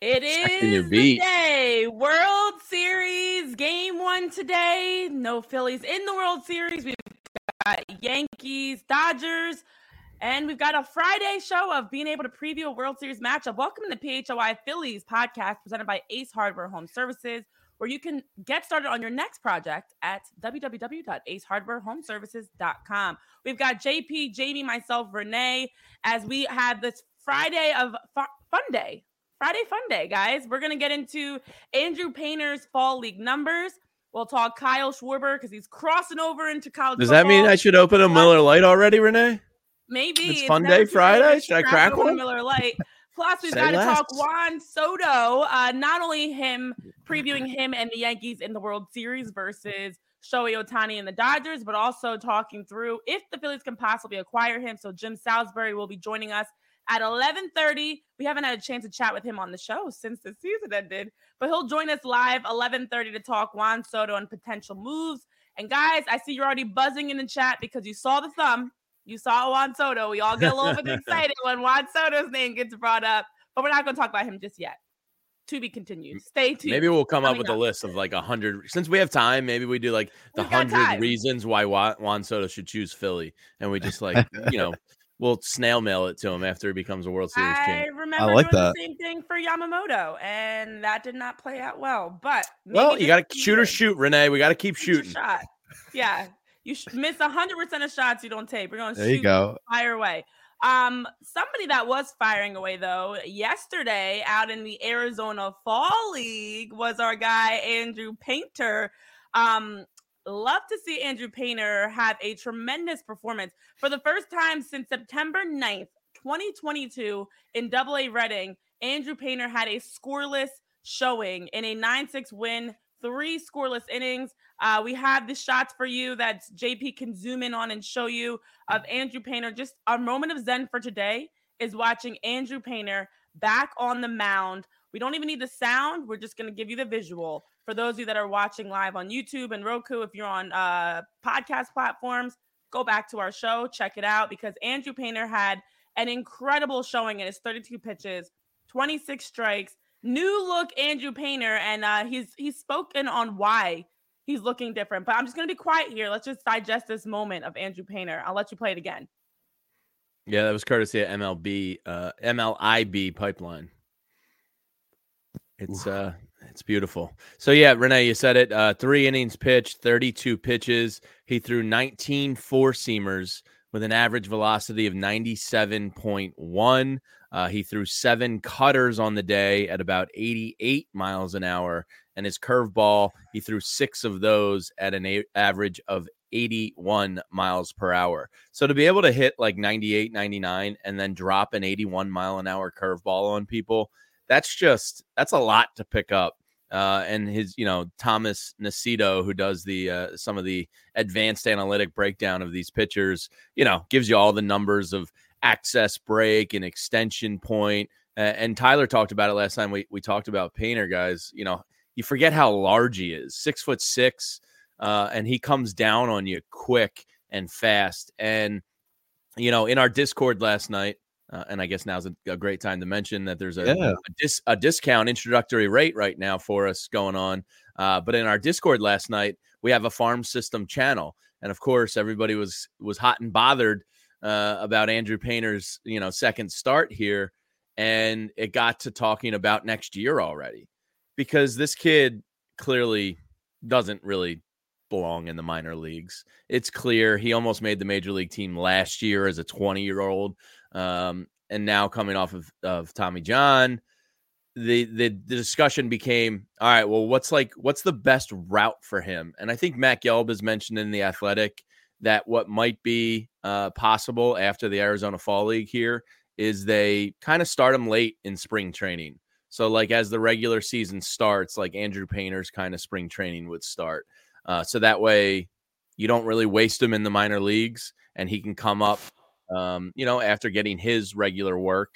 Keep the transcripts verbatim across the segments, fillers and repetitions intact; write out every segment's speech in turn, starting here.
It Second your is the beat. day. World Series game one today. No Phillies in the World Series. We've got Yankees, Dodgers, and we've got a Friday show of being able to preview a World Series matchup. Welcome to the P H O I Phillies podcast presented by Ace Hardware Home Services, where you can get started on your next project at w w w dot ace hardware home services dot com. We've got J P, Jamie, myself, Renee, as we have this Friday of fu- fun day. Friday fun day, guys. We're going to get into Andrew Painter's fall league numbers. We'll talk Kyle Schwarber because he's crossing over into college Does football. that mean I should open a Miller Lite already, Renee? Maybe. It's It's fun never day too early to Friday. Should I crack crack open a one? Miller Lite. Plus, we've Say got to less. talk Juan Soto. Uh, not only him previewing him and the Yankees in the World Series versus Shohei Ohtani and the Dodgers, but also talking through if the Phillies can possibly acquire him. So Jim Salisbury will be joining us at eleven thirty. We haven't had a chance to chat with him on the show since the season ended, but he'll join us live eleven thirty to talk Juan Soto and potential moves. And guys, I see you're already buzzing in the chat because you saw the thumb. You saw Juan Soto. We all get a little bit excited when Juan Soto's name gets brought up, but we're not going to talk about him just yet. To be continued. Stay tuned. Maybe we'll come up with up. a list of like a hundred. Since we have time, maybe we do like the hundred reasons why Juan Soto should choose Philly, and we just like you know we'll snail mail it to him after he becomes a World Series I champion. remember I like doing that. the same thing for Yamamoto, and that did not play out well. But well, you got to shoot or shoot, Renee. We got to keep shoot shooting. Shot. Yeah, you sh- miss one hundred percent of shots you don't take. We're going to there shoot, you go. fire away. Um, somebody that was firing away though yesterday out in the Arizona Fall League was our guy Andrew Painter. Um, love to see Andrew Painter have a tremendous performance for the first time since September ninth, twenty twenty-two in Double A Reading. Andrew Painter had a scoreless showing in a nine six win, three scoreless innings. Uh, we have the shots for you that J P can zoom in on and show you of Andrew Painter. Just our moment of zen for today is watching Andrew Painter back on the mound. We don't even need the sound. We're just going to give you the visual. For those of you that are watching live on YouTube and Roku, if you're on uh, podcast platforms, go back to our show, check it out, because Andrew Painter had an incredible showing in his thirty-two pitches, twenty-six strikes, new look Andrew Painter, and uh, he's he's spoken on why he's looking different. But I'm just going to be quiet here. Let's just digest this moment of Andrew Painter. I'll let you play it again. Yeah, that was courtesy of M L B, uh, M L I B Pipeline. It's uh, it's beautiful. So yeah, Renee, you said it. Uh, three innings pitched, thirty-two pitches. He threw nineteen four-seamers with an average velocity of ninety-seven point one. Uh, he threw seven cutters on the day at about eighty-eight miles an hour. And his curveball, he threw six of those at an a- average of eighty-one miles per hour. So to be able to hit like ninety-eight, ninety-nine and then drop an eighty-one mile an hour curveball on people, that's just, that's a lot to pick up. Uh, and his, you know, Thomas Nacito, who does the uh, some of the advanced analytic breakdown of these pitchers, you know, gives you all the numbers of access break and extension point. Uh, and Tyler talked about it last time we, we talked about Painter, guys. You know, you forget how large he is, six foot six, uh, and he comes down on you quick and fast. And, you know, in our Discord last night, uh, and I guess now's a, a great time to mention that there's a, Yeah. a, dis, a discount introductory rate right now for us going on. Uh, but in our Discord last night, we have a farm system channel. And of course, everybody was was hot and bothered uh, about Andrew Painter's, you know, second start here. And it got to talking about next year already, because this kid clearly doesn't really belong in the minor leagues. It's clear he almost made the major league team last year as a twenty-year-old. Um, and now coming off of, of Tommy John, the, the the discussion became, all right, well, what's like what's the best route for him? And I think Matt Gelb has mentioned in The Athletic that what might be uh, possible after the Arizona Fall League here is they kind of start him late in spring training. So like as the regular season starts, like Andrew Painter's kind of spring training would start. Uh, so that way you don't really waste him in the minor leagues and he can come up, um, you know, after getting his regular work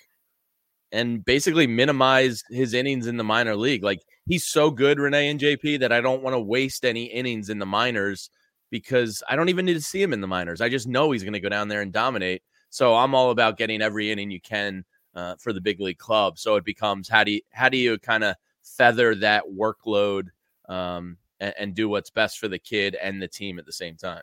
and basically minimize his innings in the minor league. Like he's so good, Renee and J P, that I don't want to waste any innings in the minors because I don't even need to see him in the minors. I just know he's going to go down there and dominate. So I'm all about getting every inning you can uh, for the big league club. So it becomes how do you how do you kind of feather that workload um, and, and do what's best for the kid and the team at the same time.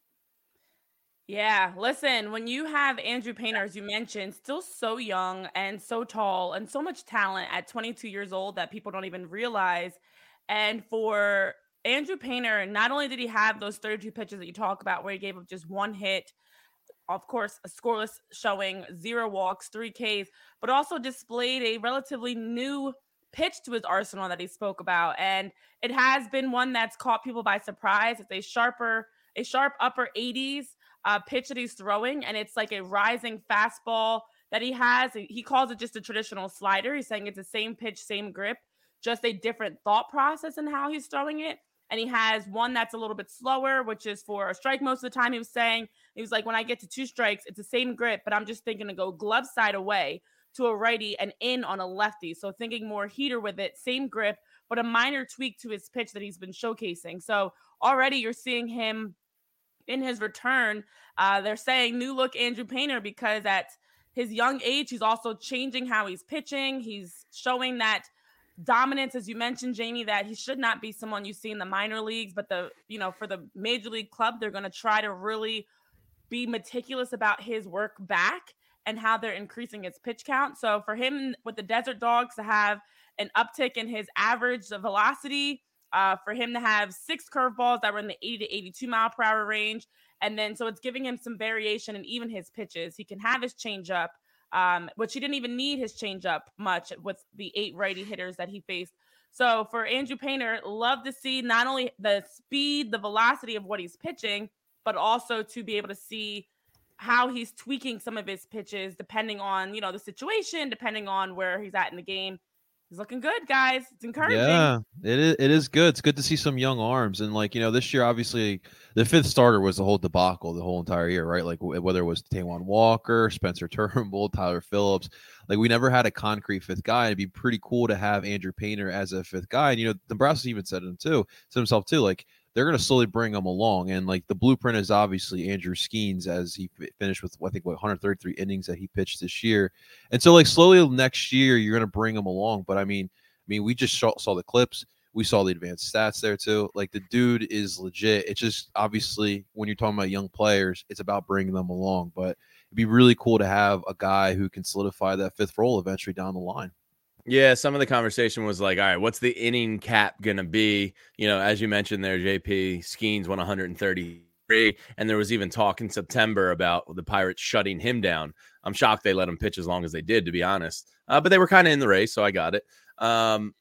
Yeah, listen, when you have Andrew Painter, as you mentioned, still so young and so tall and so much talent at twenty-two years old that people don't even realize. And for Andrew Painter, not only did he have those thirty-two pitches that you talk about where he gave up just one hit, of course, a scoreless showing, zero walks, three Ks, but also displayed a relatively new pitch to his arsenal that he spoke about. And it has been one that's caught people by surprise. It's a sharper, a sharp upper eighties uh, pitch that he's throwing, and it's like a rising fastball that he has. He calls it just a traditional slider. He's saying it's the same pitch, same grip, just a different thought process in how he's throwing it. And he has one that's a little bit slower, which is for a strike most of the time. He was saying, he was like, when I get to two strikes, it's the same grip, but I'm just thinking to go glove side away to a righty and in on a lefty. So thinking more heater with it, same grip, but a minor tweak to his pitch that he's been showcasing. So already you're seeing him in his return. Uh, they're saying new look Andrew Painter because at his young age, he's also changing how he's pitching. He's showing that dominance, as you mentioned, Jamie, that he should not be someone you see in the minor leagues, but the, you know, for the major league club, they're going to try to really be meticulous about his work back and how they're increasing his pitch count. So for him with the Desert Dogs to have an uptick in his average velocity, uh, for him to have six curveballs that were in the eighty to eighty-two mile per hour range. And then, so it's giving him some variation in even his pitches. He can have his changeup, um, which he didn't even need his changeup much with the eight righty hitters that he faced. So for Andrew Painter, love to see not only the speed, the velocity of what he's pitching, but also to be able to see how he's tweaking some of his pitches depending on, you know, the situation, depending on where he's at in the game. He's looking good, guys. It's encouraging. Yeah, it is. It is good. It's good to see some young arms. And like, you know, this year, obviously the fifth starter was the whole debacle the whole entire year, right? Like whether it was Taijuan Walker, Spencer Turnbull, Tyler Phillips, like we never had a concrete fifth guy. It'd be pretty cool to have Andrew Painter as a fifth guy. And, you know, Dombrowski even said him too, said himself too, like, they're going to slowly bring him along. And like the blueprint is obviously Andrew Skeens as he finished with, I think, what, one hundred thirty-three innings that he pitched this year. And so like slowly next year, you're going to bring him along. But I mean, I mean, we just saw, saw the clips. We saw the advanced stats there too. Like the dude is legit. It's just obviously when you're talking about young players, it's about bringing them along. But it'd be really cool to have a guy who can solidify that fifth role eventually down the line. Yeah, some of the conversation was like, all right, what's the inning cap going to be? You know, as you mentioned there, J P, Skeens won one hundred thirty-three, and there was even talk in September about the Pirates shutting him down. I'm shocked they let him pitch as long as they did, to be honest. Uh, but they were kind of in the race, so I got it. Um,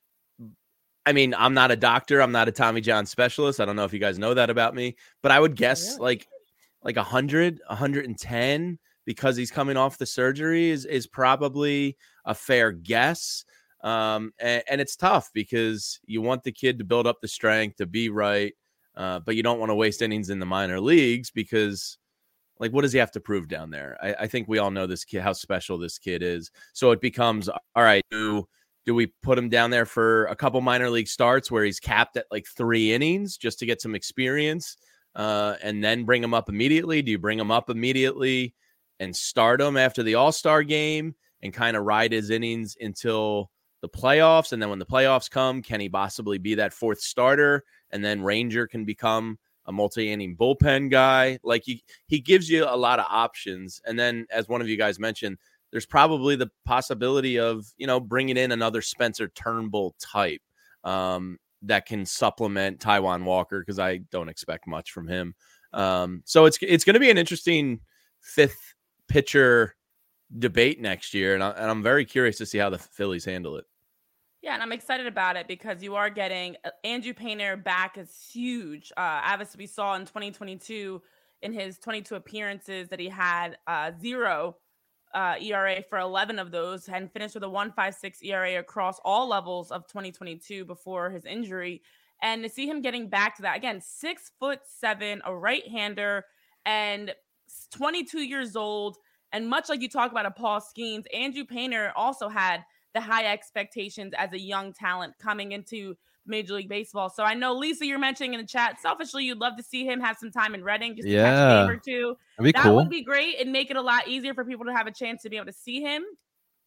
I mean, I'm not a doctor. I'm not a Tommy John specialist. I don't know if you guys know that about me, but I would guess yeah. like like one hundred, one hundred ten because he's coming off the surgery is, is probably a fair guess. Um, and, and it's tough because you want the kid to build up the strength to be right. Uh, but you don't want to waste innings in the minor leagues because like, what does he have to prove down there? I, I think we all know this kid, how special this kid is. So it becomes, all right, do, do we put him down there for a couple minor league starts where he's capped at like three innings just to get some experience uh, and then bring him up immediately? Do you bring him up immediately and start him after the All-Star game and kind of ride his innings until the playoffs? And then when the playoffs come, can he possibly be that fourth starter? And then Ranger can become a multi-inning bullpen guy. Like he, he gives you a lot of options. And then as one of you guys mentioned, there's probably the possibility of, you know, bringing in another Spencer Turnbull type um, that can supplement Taijuan Walker, because I don't expect much from him. Um, so it's, it's going to be an interesting fifth pitcher debate next year. And, I, and I'm very curious to see how the Phillies handle it. Yeah, and I'm excited about it because you are getting Andrew Painter back is huge. Uh, obviously, we saw in twenty twenty-two in his twenty-two appearances that he had uh, zero uh, E R A for eleven of those and finished with a one point five six E R A across all levels of twenty twenty-two before his injury. And to see him getting back to that, again, six foot seven, a right-hander, and twenty-two years old. And much like you talk about a Paul Skeens, Andrew Painter also had the high expectations as a young talent coming into Major League Baseball. So I know, Lisa, you're mentioning in the chat, selfishly, you'd love to see him have some time in Reading just to yeah. catch a game or two. That'd be that cool. would be great and make it a lot easier for people to have a chance to be able to see him.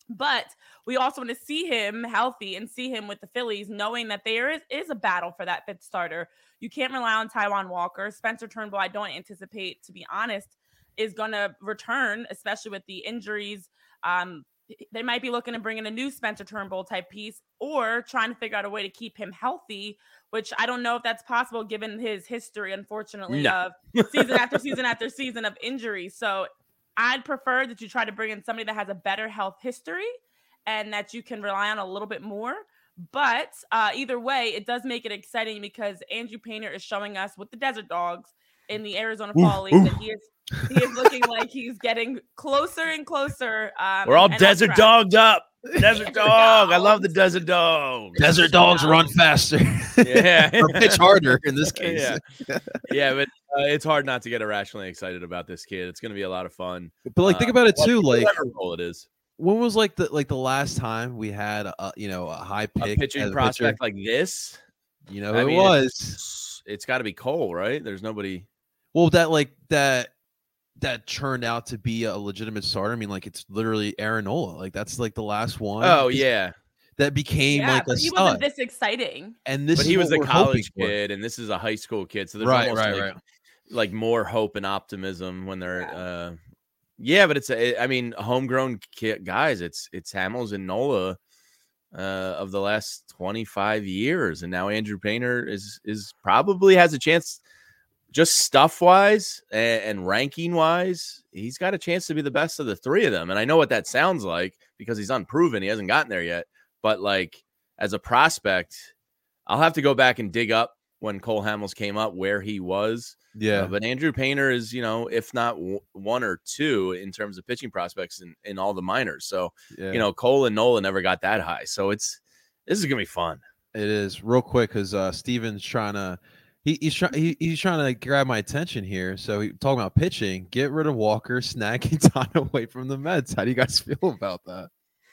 But we also want to see him healthy and see him with the Phillies, knowing that there is, is a battle for that fifth starter. You can't rely on Taijuan Walker. Spencer Turnbull, I don't anticipate, to be honest, is going to return, especially with the injuries. Um, they might be looking to bring in a new Spencer Turnbull type piece or trying to figure out a way to keep him healthy, which I don't know if that's possible given his history, unfortunately, No. of season after season after season of injuries. So I'd prefer that you try to bring in somebody that has a better health history and that you can rely on a little bit more. But uh, either way, it does make it exciting because Andrew Painter is showing us with the Desert Dogs in the Arizona Fall League that he is he is looking like he's getting closer and closer. Um, We're all and desert up dogged up. Desert Desert dog. I love dogs. the desert dog. Desert dogs run faster. Yeah. Or pitch harder in this case. Yeah, yeah, but uh, it's hard not to get irrationally excited about this kid. It's going to be a lot of fun. But like, think about it too. Like, whatever role it is, when was like the like the last time we had a you know a high a pick pitching as a prospect pitcher? like this. You know, I it mean, was. It's, it's got to be Cole, right? There's nobody. Well, that like that that turned out to be a legitimate starter. I mean, like it's literally Aaron Nola. Like that's like the last one. Oh yeah, that became Yeah, like a but he stud. wasn't this exciting. And this, but is he was what a we're hoping college for. kid, and this is a high school kid. So there's Right, almost right, like, right. like more hope and optimism when they're. Yeah. Uh, yeah, but it's a, I mean, homegrown kid, guys. It's it's Hamels and Nola uh, of the last twenty-five years, and now Andrew Painter is is probably has a chance. Just stuff wise and, and ranking wise, he's got a chance to be the best of the three of them. And I know what that sounds like because he's unproven. He hasn't gotten there yet. But like as a prospect, I'll have to go back and dig up when Cole Hamels came up where he was. Yeah. Uh, but Andrew Painter is, you know, if not w- one or two in terms of pitching prospects in, in all the minors. So, yeah. you know, Cole and Nola never got that high. So it's this is going to be fun. It is real quick because uh, Steven's trying to. He, he's trying. He, he's trying to grab my attention here. So he talking about pitching. Get rid of Walker, snag Quintana away from the Mets. How do you guys feel about that?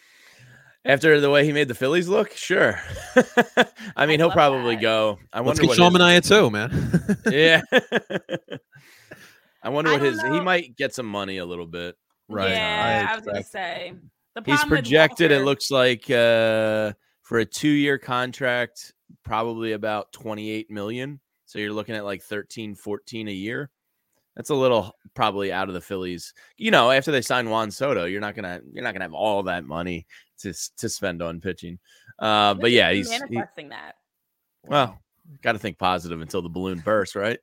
After the way he made the Phillies look, sure. I mean, I he'll love probably that. go. I Let's wonder get what Sean his- Manaea too, man. Yeah. I wonder I what don't his. He know. might get some money a little bit. Right. Yeah, I I, was gonna expect- say the He's problem with projected. It Walker- looks like uh, for a two-year contract, probably about twenty-eight million. So you're looking at like thirteen, fourteen a year. That's a little probably out of the Phillies. You know, after they sign Juan Soto, you're not gonna you're not gonna have all that money to to spend on pitching. Uh, but yeah, he's he, manifesting that. well, got to think positive until the balloon bursts, right?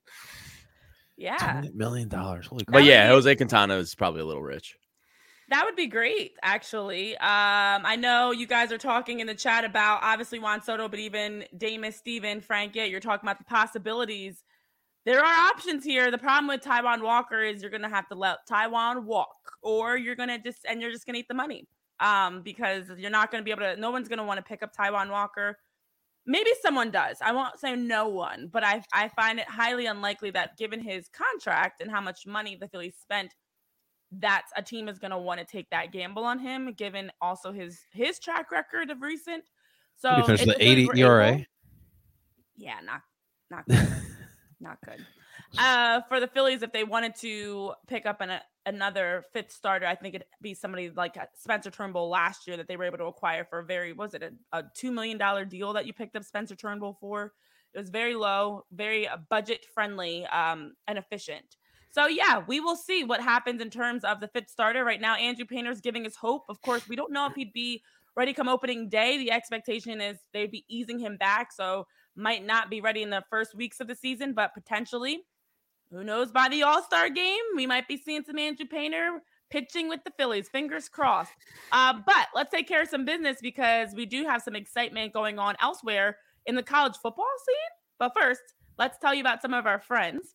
Yeah, twenty million dollars. Holy crap. But would yeah, be- Jose Quintana is probably a little rich. that would be great, actually. Um, I know you guys are talking in the chat about obviously Juan Soto, but even Damus, Steven, Frank, yeah, you're talking about the possibilities. There are options here. The problem with Taijuan Walker is you're gonna have to let Taijuan walk, or you're gonna just and you're just gonna eat the money. Um, because you're not gonna be able to. No one's gonna want to pick up Taijuan Walker. Maybe someone does. I won't say no one, but I I find it highly unlikely that given his contract and how much money the Phillies spent, that a team is going to want to take that gamble on him, given also his his track record of recent. So Did he finish if the the Phillies eighty were E R A? able- yeah, not not good. Not good. Uh, for the Phillies, if they wanted to pick up an, a, another fifth starter, I think it'd be somebody like Spencer Turnbull last year that they were able to acquire for a very, was it a, a two million dollars deal that you picked up Spencer Turnbull for? It was very low, very uh, budget friendly um, and efficient. So, yeah, we will see what happens in terms of the fifth starter. Right now, Andrew Painter's giving us hope. Of course, we don't know if he'd be ready come opening day. The expectation is they'd be easing him back, so might not be ready in the first weeks of the season, but potentially, who knows, by the All-Star game, we might be seeing some Andrew Painter pitching with the Phillies. Fingers crossed. Uh, but let's take care of some business because we do have some excitement going on elsewhere in the college football scene. But first, let's tell you about some of our friends.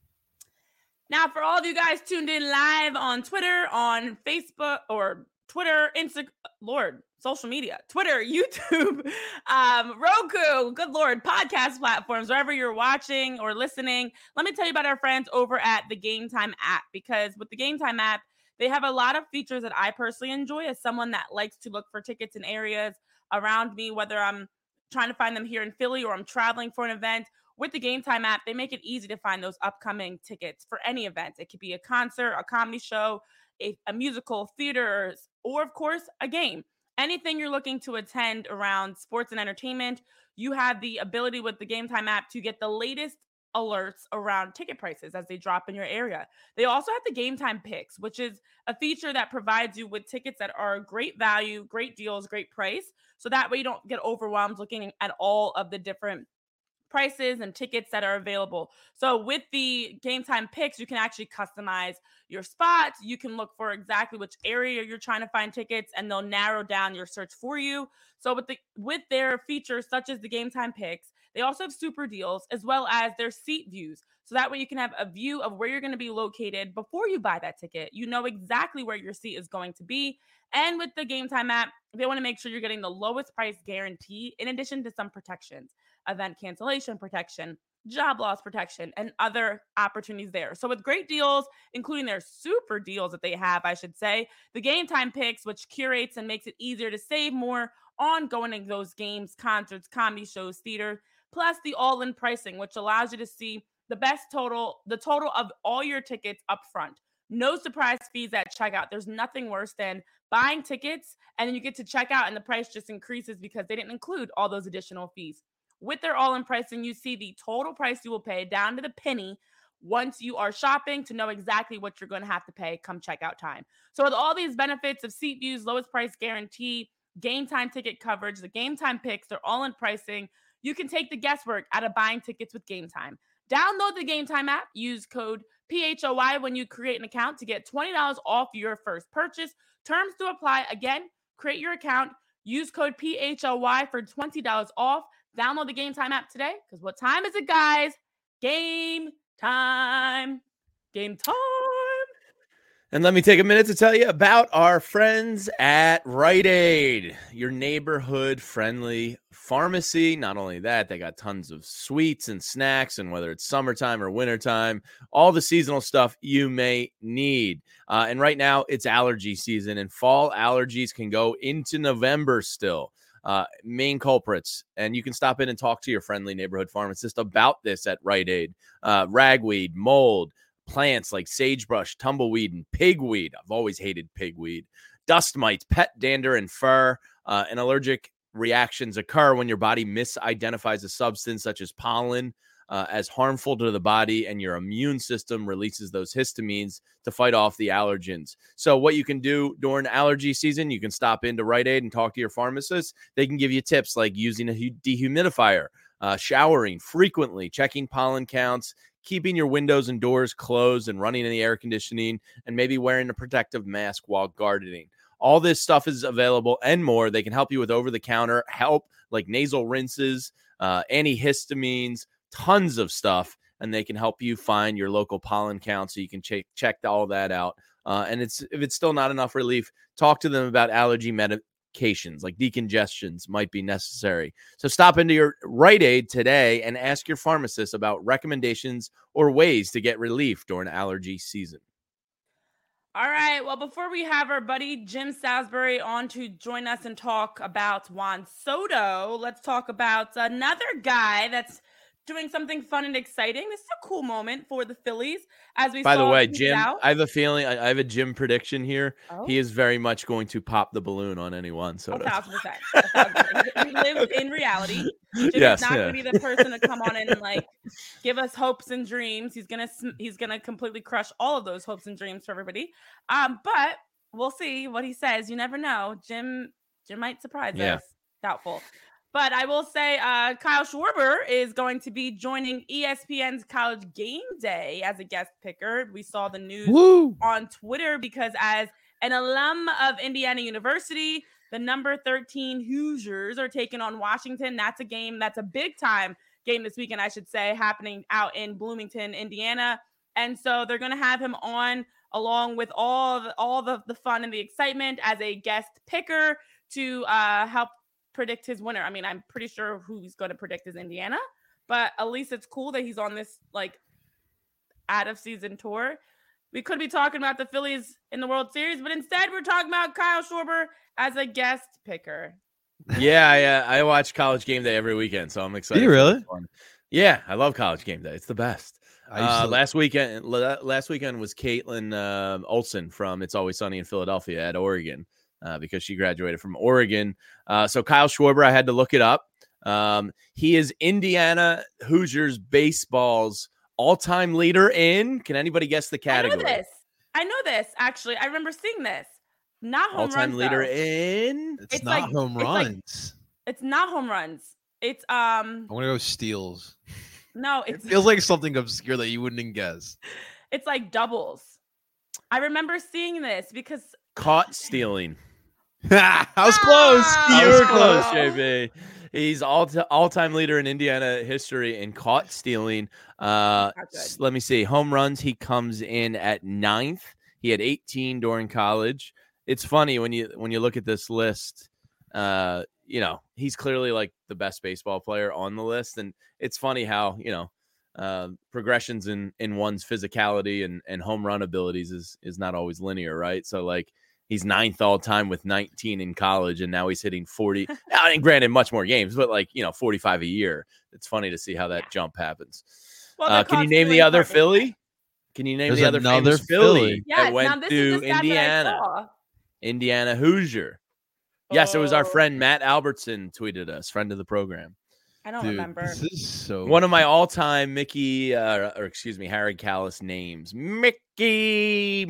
Now, for all of you guys tuned in live on Twitter, on Facebook, or Twitter, Instagram, Lord, social media, Twitter, YouTube, um, Roku, good Lord, podcast platforms, wherever you're watching or listening, let me tell you about our friends over at the Game Time app, because with the Game Time app, they have a lot of features that I personally enjoy as someone that likes to look for tickets in areas around me, whether I'm trying to find them here in Philly or I'm traveling for an event. With the Game Time app, they make it easy to find those upcoming tickets for any event. It could be a concert, a comedy show, a, a musical, theater, or of course, a game. Anything you're looking to attend around sports and entertainment, you have the ability with the Game Time app to get the latest alerts around ticket prices as they drop in your area. They also have the Game Time Picks, which is a feature that provides you with tickets that are great value, great deals, great price. So that way you don't get overwhelmed looking at all of the different prices and tickets that are available. So with the Game Time Picks, you can actually customize your spots. You can look for exactly which area you're trying to find tickets, and they'll narrow down your search for you. So with the with their features such as the Game Time Picks, they also have super deals as well as their seat views. So that way you can have a view of where you're going to be located before you buy that ticket. You know exactly where your seat is going to be. And with the Game Time app, they want to make sure you're getting the lowest price guarantee in addition to some protections, event cancellation protection, job loss protection, and other opportunities there. So with great deals, including their super deals that they have, I should say, the Game Time Picks, which curates and makes it easier to save more on going to those games, concerts, comedy shows, theater, plus the all-in pricing, which allows you to see the best total, the total of all your tickets up front. No surprise fees at checkout. There's nothing worse than buying tickets and then you get to check out and the price just increases because they didn't include all those additional fees. With their all-in pricing, you see the total price you will pay down to the penny once you are shopping to know exactly what you're going to have to pay come checkout time. So with all these benefits of seat views, lowest price guarantee, Game Time ticket coverage, the Game Time Picks, they're all-in pricing, you can take the guesswork out of buying tickets with Game Time. Download the Game Time app. Use code P H O Y when you create an account to get twenty dollars off your first purchase. Terms to apply. Again, create your account. Use code P H O Y for twenty dollars off. Download the Game Time app today because what time is it, guys? Game time. Game time. And let me take a minute to tell you about our friends at Rite Aid, your neighborhood friendly pharmacy. Not only that, they got tons of sweets and snacks, and whether it's summertime or wintertime, all the seasonal stuff you may need. Uh, and right now it's allergy season, and fall allergies can go into November still. Uh, main culprits, and you can stop in and talk to your friendly neighborhood pharmacist about this at Rite Aid. Uh, ragweed, mold, plants like sagebrush, tumbleweed, and pigweed. I've always hated pigweed. Dust mites, pet dander, and fur. Uh, and allergic reactions occur when your body misidentifies a substance such as pollen uh, as harmful to the body, and your immune system releases those histamines to fight off the allergens. So what you can do during allergy season, you can stop into Rite Aid and talk to your pharmacist. They can give you tips like using a dehumidifier, uh, showering frequently, checking pollen counts, keeping your windows and doors closed and running in the air conditioning, and maybe wearing a protective mask while gardening. All this stuff is available and more. They can help you with over-the-counter help like nasal rinses, uh, antihistamines, tons of stuff, and they can help you find your local pollen count so you can check check all that out. Uh, and it's if it's still not enough relief, talk to them about allergy medications like decongestions might be necessary. So stop into your Rite Aid today and ask your pharmacist about recommendations or ways to get relief during allergy season. All right. Well, before we have our buddy Jim Salisbury on to join us and talk about Juan Soto, let's talk about another guy that's doing something fun and exciting. This is a cool moment for the Phillies. As we By saw the way, Jim, out. I have a feeling, I, I have a Jim prediction here. Oh. He is very much going to pop the balloon on any Juan Soto. A thousand percent. A thousand percent. He lives in reality. Jim yes, is not yeah. going to be the person to come on and like give us hopes and dreams. He's gonna he's gonna completely crush all of those hopes and dreams for everybody. Um, but we'll see what he says. You never know. Jim Jim might surprise Yeah. us. Doubtful. But I will say uh, Kyle Schwarber is going to be joining E S P N's College Game Day as a guest picker. We saw the news Woo! on Twitter because as an alum of Indiana University, the number thirteen Hoosiers are taking on Washington. That's a game. That's a big time game this weekend, I should say, happening out in Bloomington, Indiana. And so they're going to have him on along with all the, all the, the fun and the excitement as a guest picker to uh, help predict his winner. I mean, I'm pretty sure who he's going to predict is Indiana, but at least it's cool that he's on this like out of season tour. We could be talking about the Phillies in the World Series, but instead we're talking about Kyle Schwarber as a guest picker. Yeah, yeah. I watch College Game Day every weekend, so I'm excited. Do you really? Yeah, I love College Game Day. It's the best. I used Uh, to, last weekend, la- last weekend was Caitlin uh, Olsen from It's Always Sunny in Philadelphia at Oregon uh, because she graduated from Oregon. Uh, so Kyle Schwarber, I had to look it up. Um, he is Indiana Hoosiers baseball's all-time leader in. Can anybody guess the category? I know this. I know this. Actually, I remember seeing this. Not home All-time runs. leader though. in. it's, It's not like- home it's like- runs. It's not home runs. It's um. I'm gonna go steals. No, It it's feels like something obscure that you wouldn't even guess. it's like doubles. I remember seeing this because Caught stealing. I was close. Ah! You I was were close, Oh. J B. He's all t- all-time leader in Indiana history in caught stealing. Uh, Not good. s- let me see. Home runs, he comes in at ninth. He had eighteen during college. It's funny when you when you look at this list. Uh, you know, he's clearly like the best baseball player on the list, and it's funny how you know uh, progressions in in one's physicality and and home run abilities is is not always linear, right? So like. He's ninth all time with nineteen in college, and now he's hitting forty. I mean, granted, much more games, but like you know, forty-five a year. It's funny to see how that jump happens. well, Uh, the can you caught name the stealing other part was Philly? nice. Can you name There's the other another famous Philly, Philly. Yes. that went Now this to is the stat that I Indiana? saw. Indiana Hoosier. Yes, it was our Oh, friend Matt Albertson tweeted us, friend of the program. I don't Dude, remember. this is so. One of my all-time Mickey, uh, or excuse me, Harry Callis names, Mickey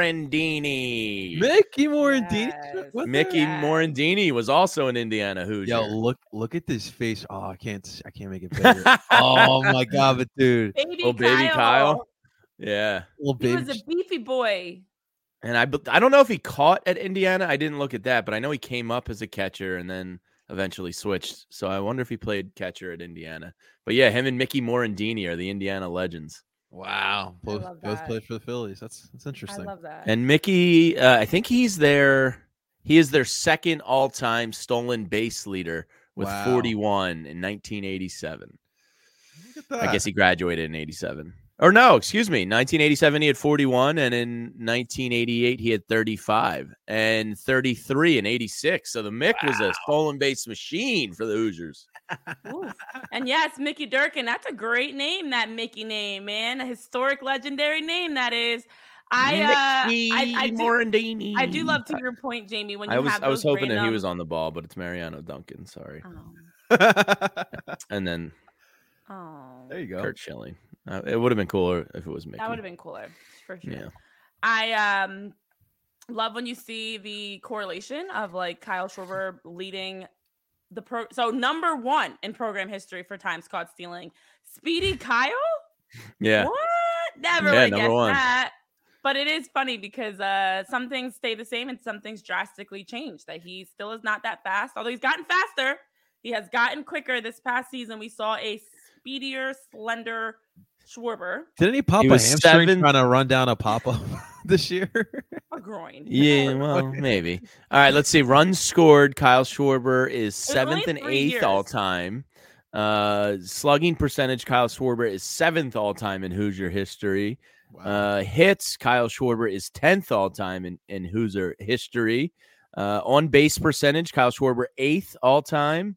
Morandini. Mickey Morandini. Yes. What Mickey Yes. Morandini was also an Indiana Hoosier. Yo, look, look at this face. Oh, I can't, I can't make it bigger. Oh my god, but dude, Baby Oh, baby Kyle. Kyle. Yeah. little He baby. was a beefy boy. And I, be- I don't know if he caught at Indiana. I didn't look at that, but I know he came up as a catcher and then eventually switched. So I wonder if he played catcher at Indiana. But yeah, him and Mickey Morandini are the Indiana legends. Wow, I both, love both that. played for the Phillies. That's that's I interesting. love that. And Mickey, uh, I think he's their he is their second all-time stolen base leader with Wow. forty-one in nineteen eighty-seven. Look at that. I guess he graduated in eighty-seven. Or no, excuse me. nineteen eighty-seven, he had forty-one. And in nineteen eighty-eight, he had thirty-five. And thirty-three in eighty-six. So the Mick was a stolen base machine for the Hoosiers. Oof. And yes, Mickey Durkin. That's a great name, that Mickey name, man. A historic, legendary name, that is. I, uh, Mickey I, I, do, Morandini. I do love to your point, Jamie, when you I was have I was those hoping that he random- was on the ball, but it's Mariano Duncan. Sorry. Oh. And then Oh. There you go. Kurt Schilling. Uh, it would have been cooler if it was Mickey. That would have been cooler, for sure. Yeah. I um love when you see the correlation of like Kyle Schwarber leading the pro. So number one in program history for times caught stealing, Speedy Kyle. Yeah. What? Never Yeah, would number guess one. that. But it is funny because uh, some things stay the same and some things drastically change. That he still is not that fast, although he's gotten faster. He has gotten quicker. This past season, we saw a speedier, slender Schwarber. Didn't he pop He a was hamstring seven- trying to run down a pop up this year? A groin. Yeah, well, maybe. All right, let's see. Runs scored. Kyle Schwarber is was only seventh and three eighth years. all time. Uh, slugging percentage. Kyle Schwarber is seventh all time in Hoosier history. Uh, hits. Kyle Schwarber is tenth all time in, in Hoosier history. Uh, on base percentage. Kyle Schwarber eighth all time.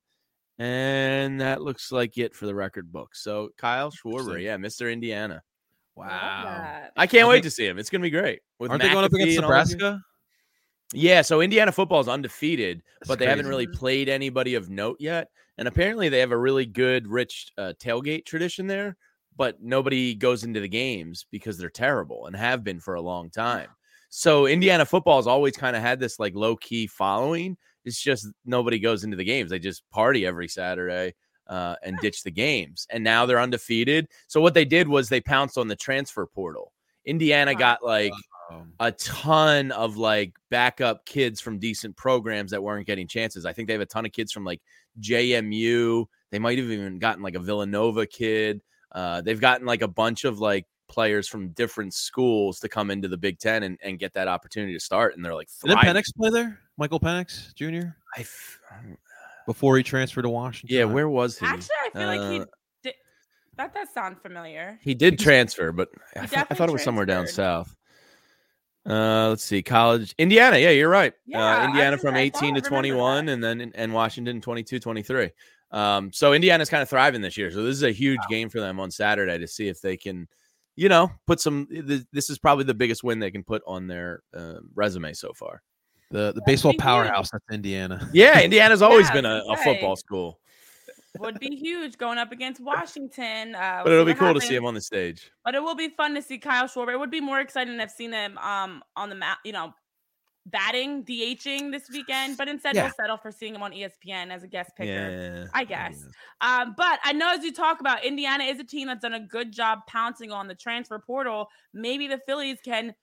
And that looks like it for the record book. So Kyle Schwarber, Interesting. yeah, Mister Indiana. Love Wow. that. I can't Are wait they- to see him. It's gonna be great. With Aren't they going up McAfee against and all of you. Nebraska? Yeah, so Indiana football is undefeated, That's but they haven't crazy. really played anybody of note yet. And apparently, they have a really good, rich uh, tailgate tradition there. But nobody goes into the games because they're terrible and have been for a long time. So Indiana football has always kind of had this like low key following. It's just nobody goes into the games. They just party every Saturday uh, and ditch the games. And now they're undefeated. So what they did was they pounced on the transfer portal. Indiana Wow. got like Um, a ton of like backup kids from decent programs that weren't getting chances. I think they have a ton of kids from like J M U. They might have even gotten like a Villanova kid. Uh, they've gotten like a bunch of like players from different schools to come into the Big Ten and, and get that opportunity to start. And they're like, didn't thriving. Penix play there? Michael Penix Junior I f- before he transferred to Washington. yeah, where was he? Actually, I feel like he Uh, did. That does sound familiar. He did transfer, but I, thought- I definitely thought it was somewhere down transferred. south. Uh, let's see, college, Indiana. Yeah, you're right. Yeah, uh, I Indiana was- from I eighteen thought to I remembered twenty-one, that. and then and Washington twenty-two, twenty-three. Um, so Indiana's kind of thriving this year. So this is a huge game for them on Saturday to see if they can you know, put some. This is probably the biggest win they can put on their uh, resume so far. The the baseball powerhouse, that's Indiana. Yeah, Indiana's always yeah, been a, a football school. Would be huge going up against Washington. Uh, but it'll be cool happens. to see him on the stage. But it will be fun to see Kyle Schwarber. It would be more exciting to have seen him um, on the map, you know, batting, DHing this weekend. But instead, yeah. we'll settle for seeing him on E S P N as a guest picker, yeah, I guess. Yeah. Um, but I know as you talk about, Indiana is a team that's done a good job pouncing on the transfer portal. Maybe the Phillies can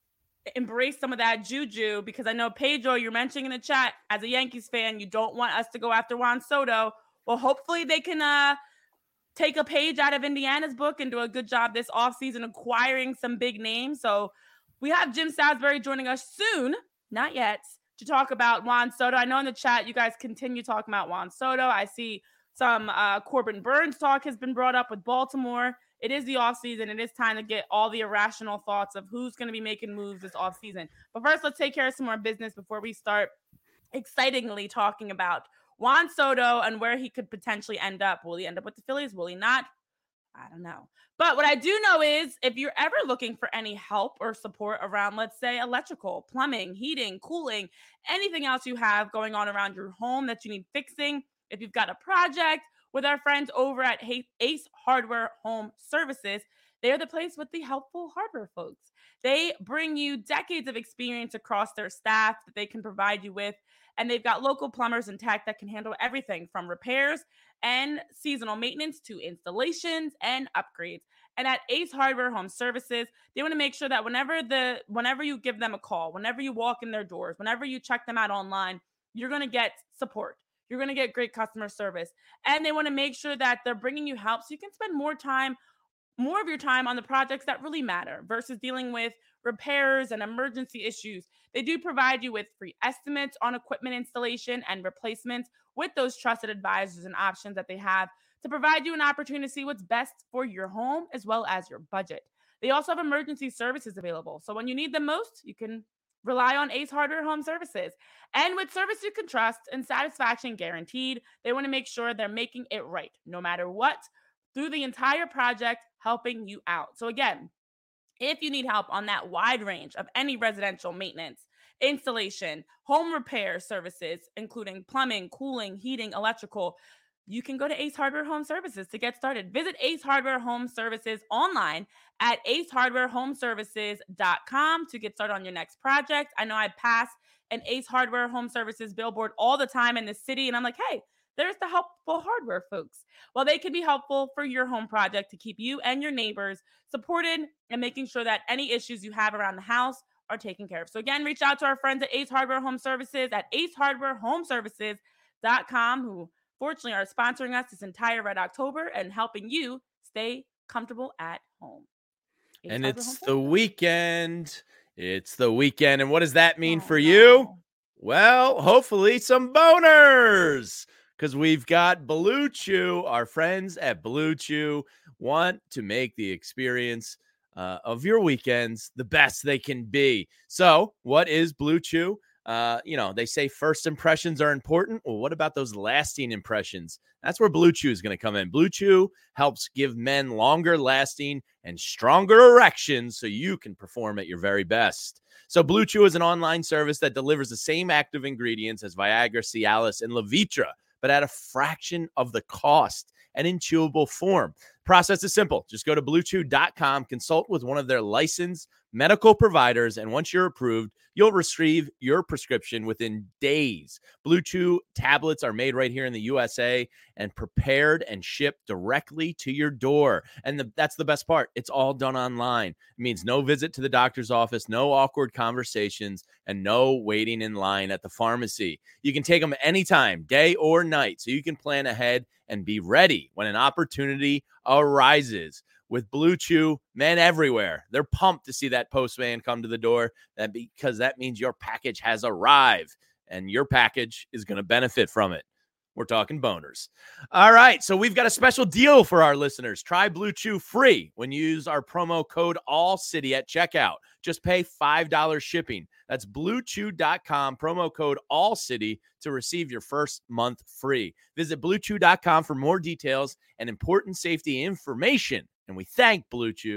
embrace some of that juju, because I know, Pedro, you're mentioning in the chat, as a Yankees fan, you don't want us to go after Juan Soto. Well, hopefully they can uh, take a page out of Indiana's book and do a good job this offseason acquiring some big names. So we have Jim Salisbury joining us soon, not yet, to talk about Juan Soto. I know in the chat you guys continue talking about Juan Soto. I see some uh, Corbin Burns talk has been brought up with Baltimore. It is the offseason. It is time to get all the irrational thoughts of who's going to be making moves this offseason. But first, let's take care of some more business before we start excitingly talking about Juan Soto and where he could potentially end up. Will he end up with the Phillies? Will he not? I don't know. But what I do know is if you're ever looking for any help or support around, let's say, electrical, plumbing, heating, cooling, anything else you have going on around your home that you need fixing, if you've got a project, with our friends over at Ace Hardware Home Services, they're the place with the helpful hardware folks. They bring you decades of experience across their staff that they can provide you with. And they've got local plumbers and tech that can handle everything from repairs and seasonal maintenance to installations and upgrades. And at Ace Hardware Home Services, they want to make sure that whenever the whenever you give them a call, whenever you walk in their doors, whenever you check them out online, you're going to get support. You're going to get great customer service. And they want to make sure that they're bringing you help so you can spend more time, more of your time on the projects that really matter versus dealing with repairs and emergency issues. They do provide you with free estimates on equipment installation and replacements with those trusted advisors and options that they have to provide you an opportunity to see what's best for your home as well as your budget. They also have emergency services available. So when you need them most, you can rely on Ace Hardware Home Services. And with service you can trust and satisfaction guaranteed, they want to make sure they're making it right, no matter what, through the entire project, helping you out. So again, if you need help on that wide range of any residential maintenance, installation, home repair services, including plumbing, cooling, heating, electrical, you can go to Ace Hardware Home Services to get started. Visit Ace Hardware Home Services online at ace hardware home services dot com to get started on your next project. I know I pass an Ace Hardware Home Services billboard all the time in the city, and I'm like, hey, there's the helpful hardware folks. Well, they can be helpful for your home project to keep you and your neighbors supported and making sure that any issues you have around the house are taken care of. So again, reach out to our friends at Ace Hardware Home Services at ace hardware home services dot com, who fortunately are sponsoring us this entire Red October and helping you stay comfortable at home. Ace and Hardware it's Home the Services. weekend. It's the weekend. And what does that mean Oh, for no. you? Well, hopefully some boners, because we've got Blue Chew. Our friends at Blue Chew want to make the experience uh, of your weekends the best they can be. So what is Blue Chew? Uh, you know, they say first impressions are important. Well, what about those lasting impressions? That's where Blue Chew is going to come in. Blue Chew helps give men longer lasting and stronger erections so you can perform at your very best. So Blue Chew is an online service that delivers the same active ingredients as Viagra, Cialis, and Levitra, but at a fraction of the cost and in chewable form. Process is simple. Just go to blue chew dot com, consult with one of their licensed medical providers, and once you're approved, you'll receive your prescription within days. Blue Chew tablets are made right here in the U S A and prepared and shipped directly to your door. And the, that's the best part. It's all done online. It means no visit to the doctor's office, no awkward conversations, and no waiting in line at the pharmacy. You can take them anytime, day or night, so you can plan ahead and be ready when an opportunity arises. With Blue Chew, men everywhere, they're pumped to see that postman come to the door, that because that means your package has arrived and your package is going to benefit from it. We're talking boners. All right, so we've got a special deal for our listeners. Try Blue Chew free when you use our promo code ALLCITY at checkout. Just pay five dollars shipping. That's blue chew dot com, promo code ALLCITY to receive your first month free. Visit blue chew dot com for more details and important safety information. And we thank Blue Chew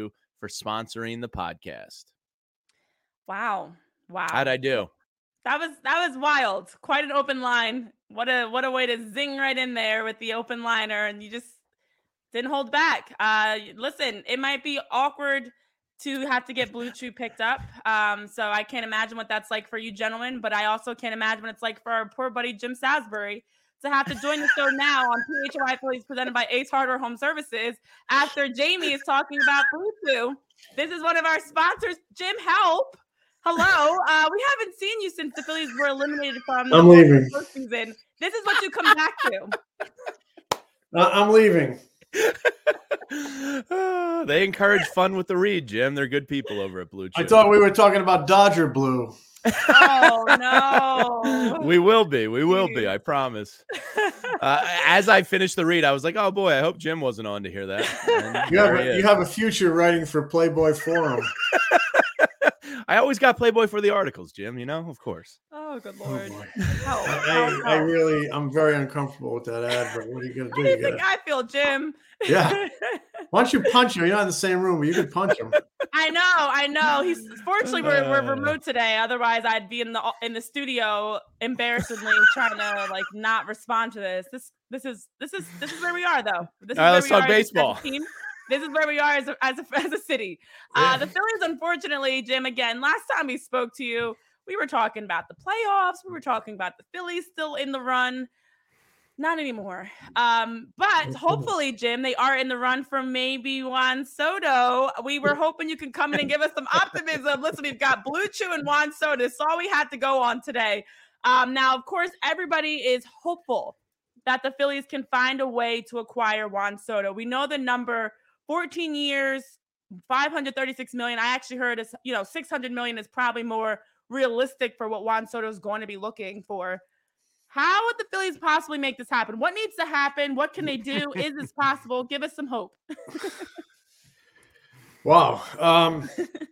for sponsoring the podcast. Wow. Wow. How'd I do? That was that was wild. Quite an open line. What a what a way to zing right in there with the open liner, and you just didn't hold back. Uh, listen, it might be awkward to have to get Blue Chew picked up. Um, so I can't imagine what that's like for you gentlemen, but I also can't imagine what it's like for our poor buddy Jim Salisbury to have to join the show now on P H Y Phillies presented by Ace Hardware Home Services after Jamie is talking about Blue Chew. This is one of our sponsors, Jim Help. Hello. Uh, we haven't seen you since the Phillies were eliminated from the I'm leaving. postseason. This is what you come back to. Uh, I'm leaving. uh, they encourage fun with the read, Jim. They're good people over at Blue Chew. I thought we were talking about Dodger Blue. Oh, no. We will be. We will be. I promise. Uh, as I finished the read, I was like, oh, boy, I hope Jim wasn't on to hear that. And You have, there he a, is. you have a future writing for Playboy Forum. I always got Playboy for the articles, Jim, you know, of course. Oh, good Oh, Lord. boy. Help, I, help, I help. really, I'm very uncomfortable with that ad, but what are you going to How do? do you You think gotta, I feel, Jim? Yeah. Why don't you punch him? You're not in the same room, but you could punch him. I know, I know. He's fortunately we're, we're Uh. remote today. Otherwise, I'd be in the in the studio embarrassedly trying to like not respond to this. This this is this is this is where we are though. This is All right, where let's we talk are as- baseball. As a team. This is where we are as a, as a, as a city. Uh, the Phillies, unfortunately, Jim, again, last time we spoke to you, we were talking about the playoffs. We were talking about the Phillies still in the run. Not anymore. Um, but hopefully, Jim, they are in the run for maybe Juan Soto. We were hoping you could come in and give us some optimism. Listen, we've got Blue Chew and Juan Soto. That's all we had to go on today. Um, now, of course, everybody is hopeful that the Phillies can find a way to acquire Juan Soto. We know the number fourteen years, five hundred thirty-six million. I actually heard is, you know, six hundred million is probably more realistic for what Juan Soto is going to be looking for. How would the Phillies possibly make this happen? What needs to happen? What can they do? Is this possible? Give us some hope. Wow. Um,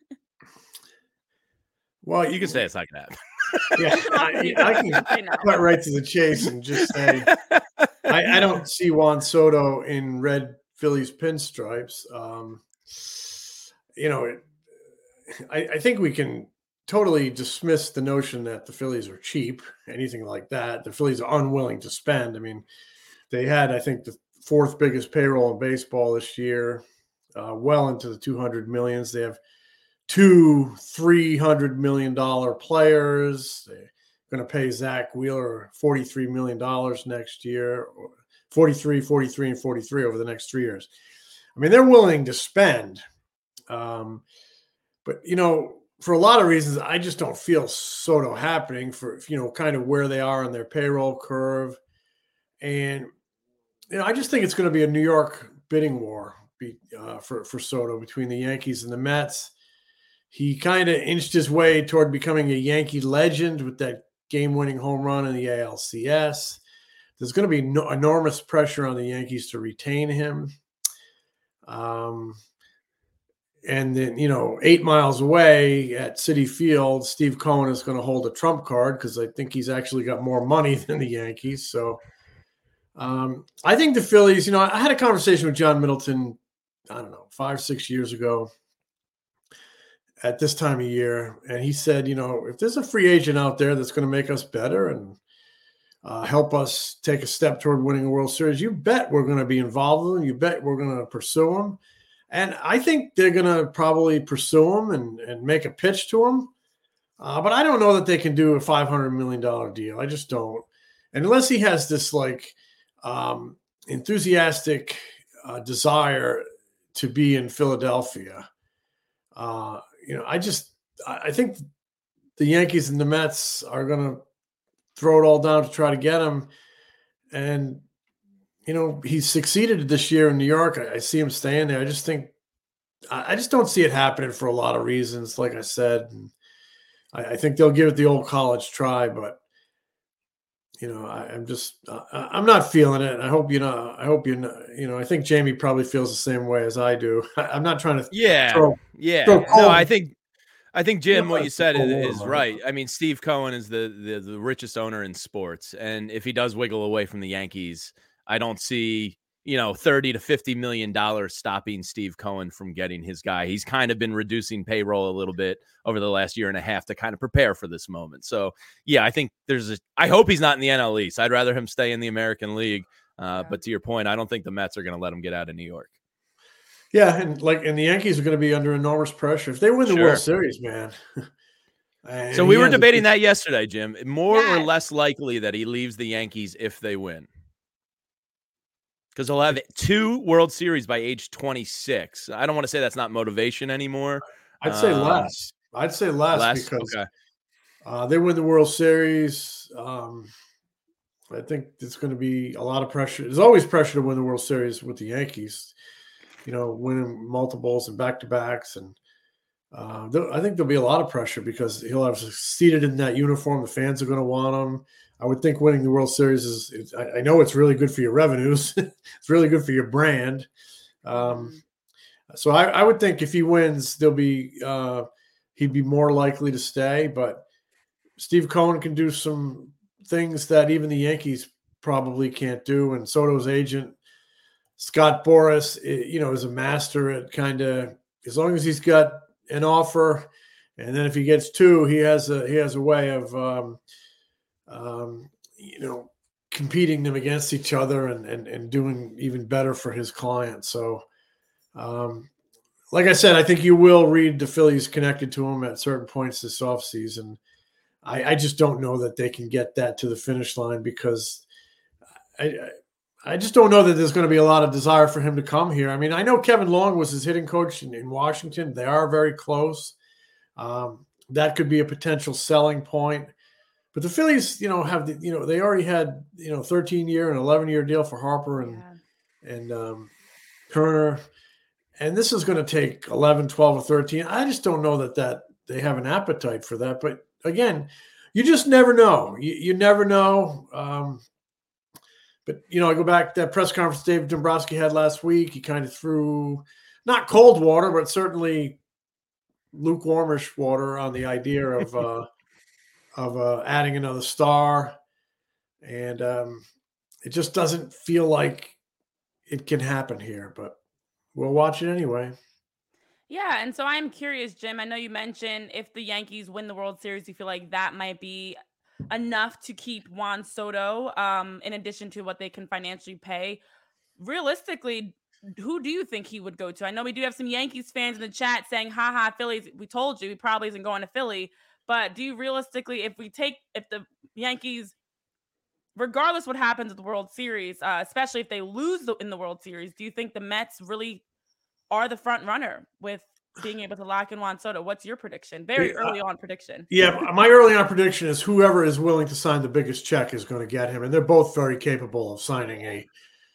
well, You can say it's like that. Yeah, I, I can I know. cut right to the chase and just say I, I don't see Juan Soto in red Phillies pinstripes. Um, you know, it, I, I think we can totally dismiss the notion that the Phillies are cheap, anything like that. The Phillies are unwilling to spend. I mean, they had, I think, the fourth biggest payroll in baseball this year, uh, well into the two hundred millions. They have two three hundred million dollars players. They're going to pay Zach Wheeler forty-three million dollars next year, forty-three, forty-three, and forty-three over the next three years. I mean, they're willing to spend. Um, but, you know, for a lot of reasons, I just don't feel Soto happening for, you know, kind of where they are on their payroll curve. And, you know, I just think it's going to be a New York bidding war be, uh, for, for Soto between the Yankees and the Mets. He kind of inched his way toward becoming a Yankee legend with that game-winning home run in the A L C S. There's going to be no, enormous pressure on the Yankees to retain him. Um, and then, you know, eight miles away at Citi Field, Steve Cohen is going to hold a trump card because I think he's actually got more money than the Yankees. So um, I think the Phillies, you know, I had a conversation with John Middleton, I don't know, five, six years ago at this time of year. And he said, you know, if there's a free agent out there that's going to make us better and uh, help us take a step toward winning a World Series, you bet we're going to be involved with them. You bet we're going to pursue them. And I think they're going to probably pursue him and, and make a pitch to him. Uh, but I don't know that they can do a five hundred million dollars deal. I just don't. And unless he has this like um, enthusiastic uh, desire to be in Philadelphia, uh, you know, I just, I think the Yankees and the Mets are going to throw it all down to try to get him. And, you know, he's succeeded this year in New York. I, I see him staying there. I just think, I, I just don't see it happening for a lot of reasons. Like I said, and I, I think they'll give it the old college try, but you know, I, I'm just, uh, I'm not feeling it. I hope, you know, I hope you know, you know, I think Jamie probably feels the same way as I do. I, I'm not trying to Yeah. throw, Yeah. throw No, cold. I think, I think Jim, what you said Cold is, war, is man. right. I mean, Steve Cohen is the, the the richest owner in sports, and if he does wiggle away from the Yankees, I don't see you know, thirty to fifty million dollars stopping Steve Cohen from getting his guy. He's kind of been reducing payroll a little bit over the last year and a half to kind of prepare for this moment. So, yeah, I think there's a, I hope he's not in the N L East. I'd rather him stay in the American League. Uh, yeah. But to your point, I don't think the Mets are going to let him get out of New York. Yeah, and like, and the Yankees are going to be under enormous pressure if they win the sure. World Series, man. So we were debating that yesterday, Jim. More yeah. or less likely that he leaves the Yankees if they win. Because he'll have two World Series by age twenty-six. I don't want to say that's not motivation anymore. I'd say um, less. I'd say less, less? because okay. uh, they win the World Series. Um, I think there's going to be a lot of pressure. There's always pressure to win the World Series with the Yankees. You know, winning multiples and back-to-backs. And uh, I think there'll be a lot of pressure because he'll have succeeded in that uniform. The fans are going to want him. I would think winning the World Series is, is I, I know it's really good for your revenues. It's really good for your brand. Um, so I, I would think if he wins, there'll be uh, he'd be more likely to stay. But Steve Cohen can do some things that even the Yankees probably can't do. And Soto's agent, Scott Boras, you know, is a master at kind of, as long as he's got an offer, and then if he gets two, he has a he has a way of um, Um, you know, competing them against each other and, and, and doing even better for his client. So, um, like I said, I think you will read the Phillies connected to him at certain points this offseason. I, I just don't know that they can get that to the finish line because I, I just don't know that there's going to be a lot of desire for him to come here. I mean, I know Kevin Long was his hitting coach in, in Washington. They are very close. Um, that could be a potential selling point. But the Phillies, you know, have the, you know, they already had, you know, thirteen year and eleven year deal for Harper and, yeah. and um, Kerner. And this is going to take eleven, twelve, or thirteen. I just don't know that, that they have an appetite for that. But again, you just never know. You, you never know. Um, but, you know, I go back to that press conference Dave Dombrowski had last week. He kind of threw not cold water, but certainly lukewarmish water on the idea of, uh, of uh, adding another star. And um, it just doesn't feel like it can happen here, but we'll watch it anyway. Yeah, and so I'm curious, Jim, I know you mentioned if the Yankees win the World Series, you feel like that might be enough to keep Juan Soto, um, in addition to what they can financially pay. Realistically, who do you think he would go to? I know we do have some Yankees fans in the chat saying, haha, Phillies, we told you, he probably isn't going to Philly. But do you realistically, if we take, if the Yankees, regardless what happens with the World Series, uh, especially if they lose the, in the World Series, do you think the Mets really are the front runner with being able to lock in Juan Soto? What's your prediction? Very early on prediction. Yeah, my early on prediction is whoever is willing to sign the biggest check is going to get him. And they're both very capable of signing a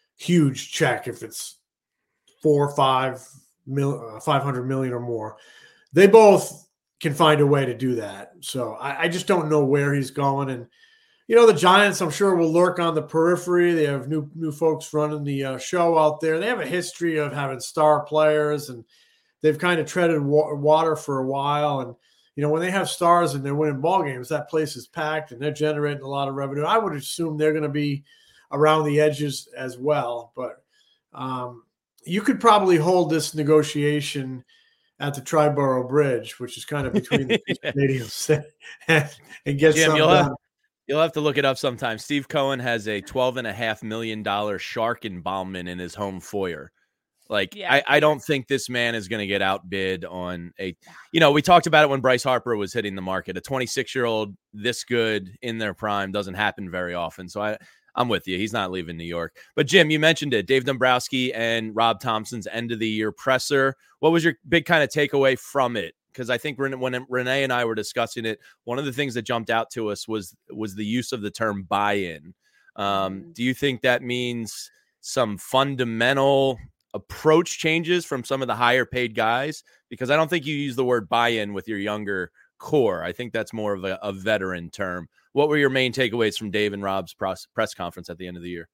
huge check if it's four, five, mil, uh, five hundred million or more. They both can find a way to do that. So I, I just don't know where he's going. And, you know, the Giants, I'm sure, will lurk on the periphery. They have new new folks running the uh, show out there. They have a history of having star players, and they've kind of treaded wa- water for a while. And, you know, when they have stars and they're winning ball games, that place is packed and they're generating a lot of revenue. I would assume they're going to be around the edges as well. But um, you could probably hold this negotiation at the Triborough Bridge, which is kind of between the two stadiums, and, and get Jim, something you'll done. have, you'll have to look it up sometime. Steve Cohen has a twelve and a half million dollar shark embalmment in his home foyer. Like, yeah. I, I don't think this man is going to get outbid on a, you know, we talked about it when Bryce Harper was hitting the market. A twenty-six year old this good in their prime doesn't happen very often. So I, I'm with you. He's not leaving New York. But Jim, you mentioned it. Dave Dombrowski and Rob Thompson's end of the year presser. What was your big kind of takeaway from it? Because I think when Renee and I were discussing it, one of the things that jumped out to us was was the use of the term buy-in. Um, do you think that means some fundamental approach changes from some of the higher paid guys? Because I don't think you use the word buy-in with your younger core. I think that's more of a, a veteran term. What were your main takeaways from Dave and Rob's press, press conference at the end of the year?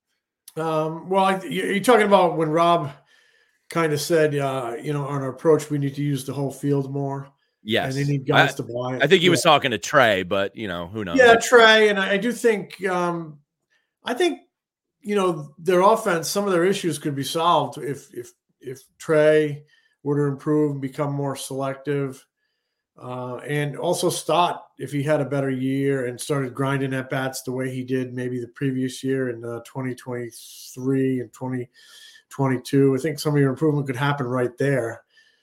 Um, well, I, you're talking about when Rob kind of said, uh, you know, on our approach, we need to use the whole field more. Yes. And they need guys I, to buy it. I think he yeah. was talking to Trey, but, you know, who knows? Yeah, Trey. And I, I do think, um, I think you know, their offense, some of their issues could be solved if if if Trey were to improve and become more selective. Uh, and also Stott, if he had a better year and started grinding at bats the way he did maybe the previous year in uh, twenty twenty-three and twenty twenty-two, I think some of your improvement could happen right there.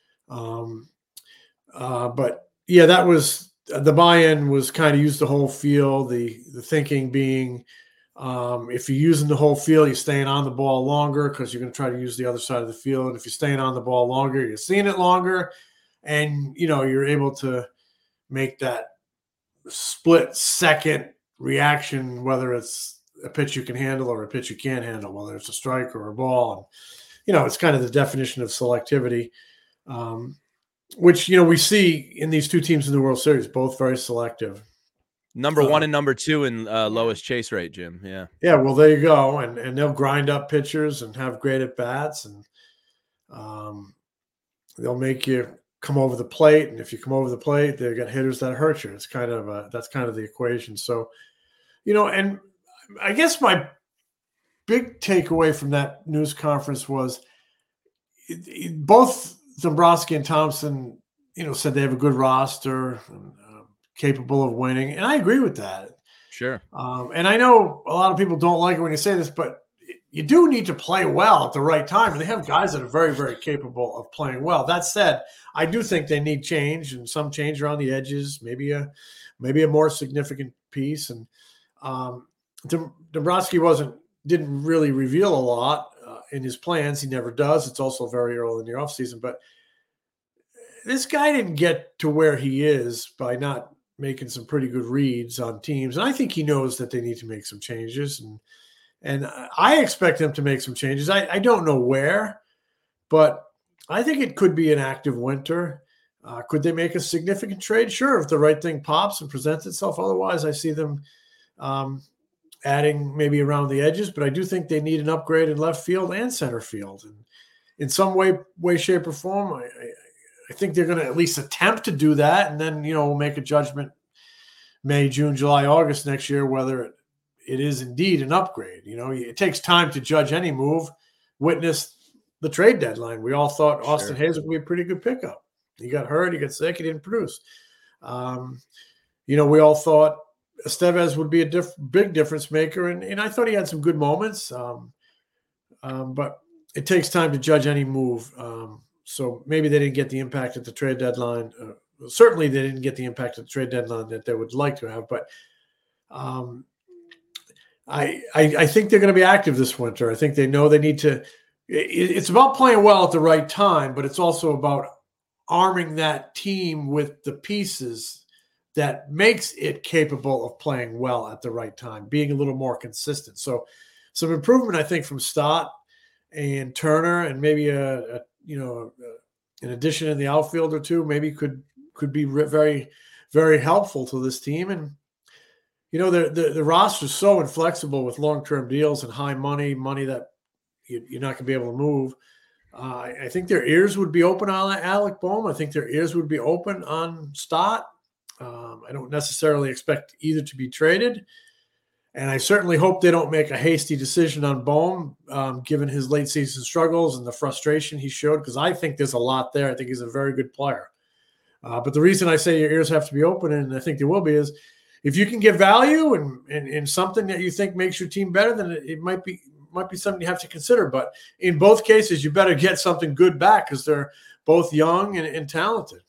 Um, uh, but yeah, that was the buy-in was kind of use the whole field. The the thinking being, um, if you're using the whole field, you're staying on the ball longer because you're going to try to use the other side of the field. If you're staying on the ball longer, you're seeing it longer. And, you know, you're able to make that split second reaction, whether it's a pitch you can handle or a pitch you can't handle, whether it's a strike or a ball. And, you know, it's kind of the definition of selectivity, um, which, you know, we see in these two teams in the World Series, both very selective. Number one uh, and number two in uh, lowest chase rate, Jim. Yeah. Yeah. Well, there you go. And, and they'll grind up pitchers and have great at bats, and um, they'll make you come over the plate, and if you come over the plate, they got hitters that hurt you. It's kind of a, that's kind of the equation. So, you know, and I guess my big takeaway from that news conference was it, it, both Dombrowski and Thompson, you know, said they have a good roster, and, uh, capable of winning, and I agree with that. Sure. Um, and I know a lot of people don't like it when you say this, but you do need to play well at the right time. And they have guys that are very, very capable of playing well. That said, I do think they need change, and some change around the edges, maybe a maybe a more significant piece. And um, Dombrowski wasn't didn't really reveal a lot uh, in his plans. He never does. It's also very early in the offseason. But this guy didn't get to where he is by not making some pretty good reads on teams. And I think he knows that they need to make some changes. And And I expect them to make some changes. I, I don't know where, but I think it could be an active winter. Uh, could they make a significant trade? Sure, if the right thing pops and presents itself. Otherwise, I see them um, adding maybe around the edges. But I do think they need an upgrade in left field and center field. And in some way, way, shape, or form, I, I, I think they're going to at least attempt to do that. And then, you know, we'll make a judgment May, June, July, August next year, whether it it is indeed an upgrade. You know, it takes time to judge any move. Witness the trade deadline. We all thought Austin Sure. Hayes would be a pretty good pickup. He got hurt. He got sick. He didn't produce. Um, you know, we all thought Estevez would be a diff- big difference maker. And, and I thought he had some good moments. Um, um, but it takes time to judge any move. Um, so maybe they didn't get the impact at the trade deadline. Uh, certainly they didn't get the impact at the trade deadline that they would like to have. But um, I, I, I think they're going to be active this winter. I think they know they need to. It, it's about playing well at the right time, but it's also about arming that team with the pieces that makes it capable of playing well at the right time, being a little more consistent. So, some improvement, I think, from Stott and Turner, and maybe a, a you know a, an addition in the outfield or two, maybe could could be re- very very helpful to this team. And you know, the, the, the roster is so inflexible with long-term deals and high money, money that you, you're not going to be able to move. Uh, I think their ears would be open on Alec Bohm. I think their ears would be open on Stott. Um, I don't necessarily expect either to be traded. And I certainly hope they don't make a hasty decision on Bohm, um, given his late season struggles and the frustration he showed, because I think there's a lot there. I think he's a very good player. Uh, but the reason I say your ears have to be open, and I think they will be, is if you can get value and, and, and something that you think makes your team better, then it, it might be might be something you have to consider. But in both cases, you better get something good back because they're both young and, and talented.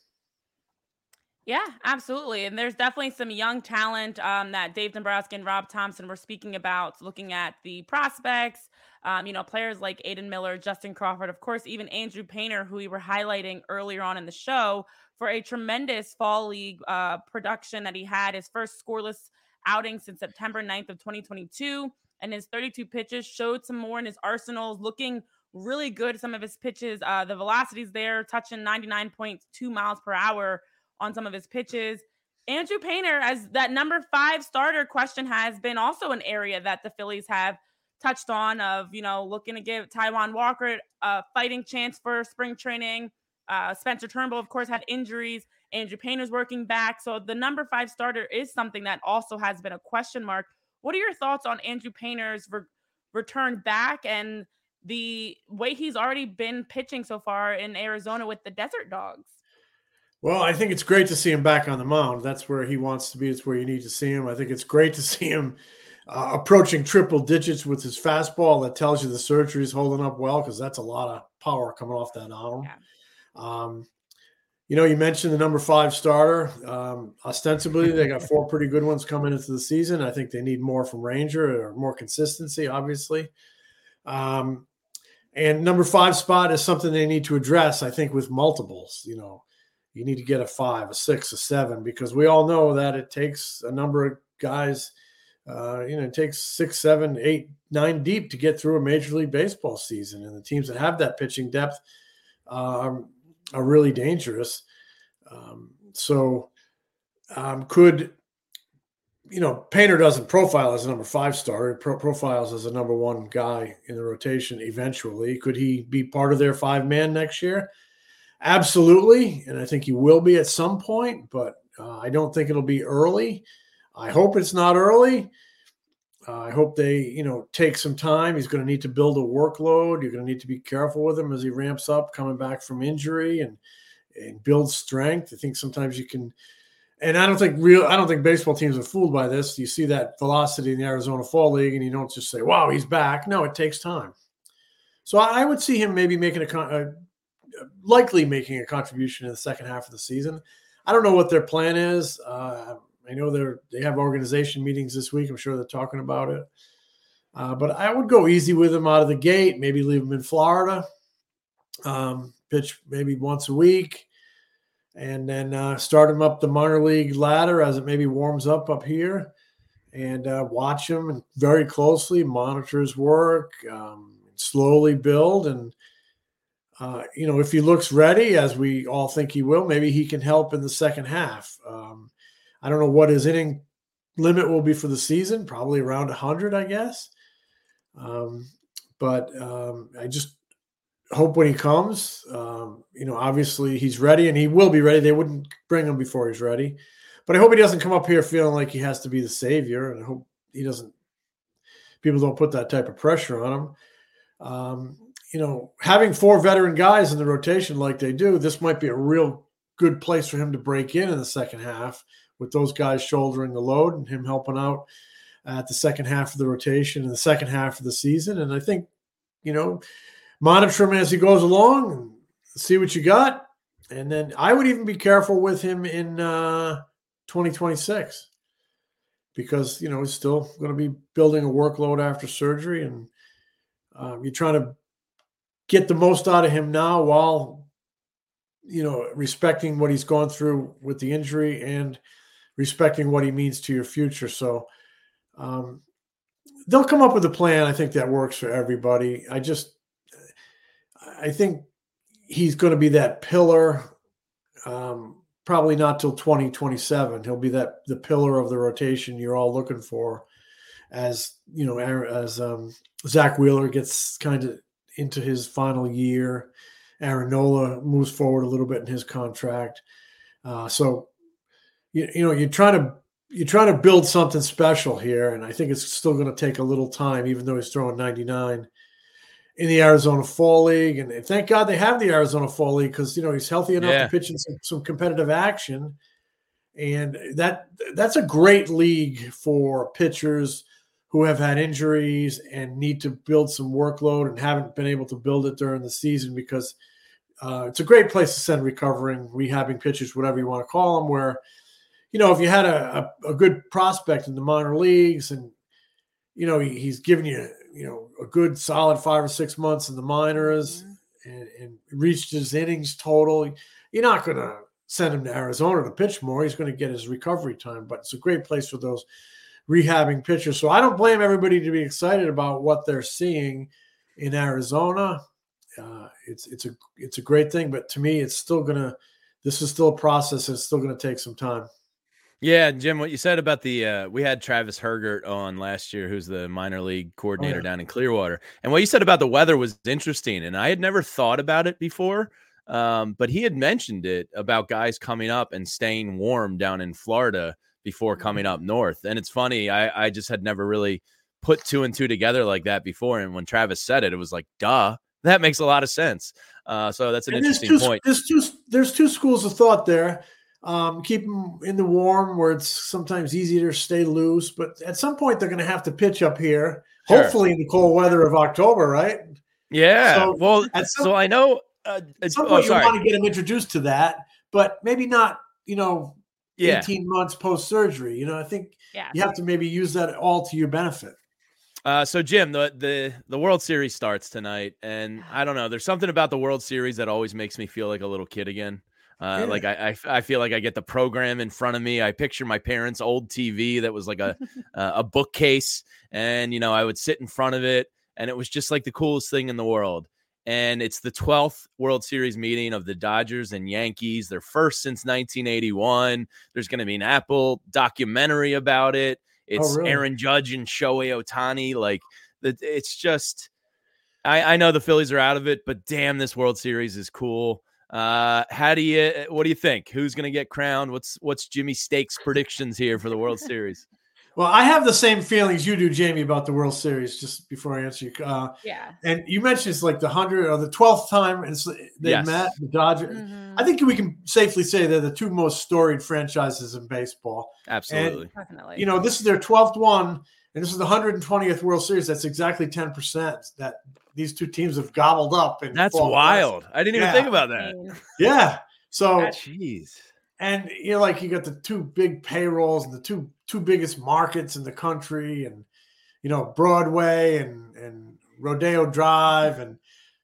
Yeah, absolutely. And there's definitely some young talent um, that Dave Dombrowski and Rob Thompson were speaking about, looking at the prospects, um, you know, players like Aiden Miller, Justin Crawford, of course, even Andrew Painter, who we were highlighting earlier on in the show for a tremendous fall league uh, production that he had, his first scoreless outing since September ninth of twenty twenty-two. And his thirty-two pitches showed some more in his arsenals, looking really good. Some of his pitches, uh, the velocities there, touching ninety-nine point two miles per hour on some of his pitches. Andrew Painter, as that number five starter question has been also an area that the Phillies have touched on, of, you know, looking to give Taijuan Walker a fighting chance for spring training. Uh, Spencer Turnbull, of course, had injuries. Andrew Painter's working back. So the number five starter is something that also has been a question mark. What are your thoughts on Andrew Painter's returned back and the way he's already been pitching so far in Arizona with the Desert Dogs. Well, I think it's great to see him back on the mound. That's where he wants to be. It's where you need to see him. I think it's great to see him uh, approaching triple digits with his fastball. That tells you the surgery is holding up well, because that's a lot of power coming off that arm. Yeah. Um, you know, you mentioned the number five starter. Um, ostensibly, they got four pretty good ones coming into the season. I think they need more from Ranger, or more consistency, obviously. Um, and number five spot is something they need to address, I think, with multiples. You know, you need to get a five, a six, a seven, because we all know that it takes a number of guys, uh, you know, it takes six, seven, eight, nine deep to get through a Major League Baseball season. And the teams that have that pitching depth um, are really dangerous. Um, so um, could, you know, Painter doesn't profile as a number five starter, pro- profiles as a number one guy in the rotation eventually. Could he be part of their five man next year? Absolutely. And I think he will be at some point, but uh, I don't think it'll be early. I hope it's not early. Uh, I hope they, you know, take some time. He's going to need to build a workload. You're going to need to be careful with him as he ramps up, coming back from injury, and and build strength. I think sometimes you can, and I don't think real, I don't think baseball teams are fooled by this. You see that velocity in the Arizona Fall League, and you don't just say, "Wow, he's back." No, it takes time. So I would see him maybe making a, a likely making a contribution in the second half of the season. I don't know what their plan is. Uh, I know they're they have organization meetings this week. I'm sure they're talking about it. Uh, but I would go easy with him out of the gate. Maybe leave him in Florida. Um, pitch maybe once a week, and then uh, start him up the minor league ladder as it maybe warms up up here, and uh, watch him and very closely, monitor his work, um, slowly build. And, uh, you know, if he looks ready, as we all think he will, maybe he can help in the second half. Um, I don't know what his inning limit will be for the season, probably around one hundred, I guess. Um, but um, I just hope when he comes, um, you know, obviously he's ready, and he will be ready. They wouldn't bring him before he's ready. But I hope he doesn't come up here feeling like he has to be the savior, and I hope he doesn't – people don't put that type of pressure on him. Um, you know, having four veteran guys in the rotation like they do, this might be a real good place for him to break in in the second half, with those guys shouldering the load and him helping out at the second half of the rotation and the second half of the season. And I think, you know, monitor him as he goes along and see what you got. And then I would even be careful with him in uh, twenty twenty-six, because, you know, he's still going to be building a workload after surgery, and um, you're trying to get the most out of him now while, you know, respecting what he's gone through with the injury and respecting what he means to your future. So um, they'll come up with a plan, I think, that works for everybody. I just, I think he's going to be that pillar, um, probably not till twenty twenty-seven. He'll be that the pillar of the rotation you're all looking for, as, you know, as um, Zach Wheeler gets kind of into his final year. Aaron Nola moves forward a little bit in his contract. Uh, so, you, you know, you're trying to you're trying to build something special here, and I think it's still going to take a little time, even though he's throwing ninety-nine in the Arizona Fall League. And thank God they have the Arizona Fall League, because, you know, he's healthy enough yeah. to pitch in some, some competitive action. And that that's a great league for pitchers who have had injuries and need to build some workload and haven't been able to build it during the season, because uh, it's a great place to send recovering, rehabbing pitchers, whatever you want to call them, where, you know, if you had a, a, a good prospect in the minor leagues, and, you know, he, he's giving you, you know, a good solid five or six months in the minors, mm-hmm. and, and reached his innings total, you're not going to send him to Arizona to pitch more. He's going to get his recovery time, but it's a great place for those rehabbing pitchers. So I don't blame everybody to be excited about what they're seeing in Arizona. Uh, it's it's a it's a great thing, but to me, it's still gonna. This is still a process. It's still gonna take some time. Yeah, Jim, what you said about the uh, we had Travis Hergert on last year, who's the minor league coordinator oh, yeah. down in Clearwater, and what you said about the weather was interesting, and I had never thought about it before. Um, but he had mentioned it about guys coming up and staying warm down in Florida before coming up north. And it's funny, I, I just had never really put two and two together like that before. And when Travis said it, it was like, duh, that makes a lot of sense. Uh, so that's an and interesting there's two, point. There's two, there's two schools of thought there. Um, keep them in the warm where it's sometimes easier to stay loose, but at some point they're going to have to pitch up here, Sure. hopefully in the cold weather of October, right? Yeah. So, well, some, so I know. Uh, at some oh, point you sorry. want to get them introduced to that, but maybe not, you know, Yeah. eighteen months post-surgery. You know, I think Yeah. you have to maybe use that all to your benefit. Uh, so Jim, the, the the World Series starts tonight, and I don't know. There's something about the World Series that always makes me feel like a little kid again. Uh, Yeah. Like I, I, I feel like I get the program in front of me. I picture my parents' old T V that was like a uh, a bookcase, and you know I would sit in front of it, and it was just like the coolest thing in the world. And it's the twelfth World Series meeting of the Dodgers and Yankees. Their first since nineteen eighty-one. There's going to be an Apple documentary about it. It's Oh, really? Aaron Judge and Shohei Ohtani. Like, it's just, I, I know the Phillies are out of it, but damn, this World Series is cool. Uh, how do you, what do you think? Who's going to get crowned? What's, what's Jimmy Steak's predictions here for the World Series? Well, I have the same feelings you do, Jamie, about the World Series, just before I answer you. Uh, Yeah. and you mentioned it's like the hundredth or the twelfth time and they Yes. met, the Dodgers. Mhm. I think we can safely say they're the two most storied franchises in baseball. Absolutely. Definitely. You know, this is their twelfth one, and this is the one hundred twentieth World Series. That's exactly ten percent that these two teams have gobbled up. And That's wild. I didn't even Yeah. think about that. Yeah. So, Jeez. and you know, like you got the two big payrolls and the two two biggest markets in the country, and you know, Broadway and and Rodeo Drive and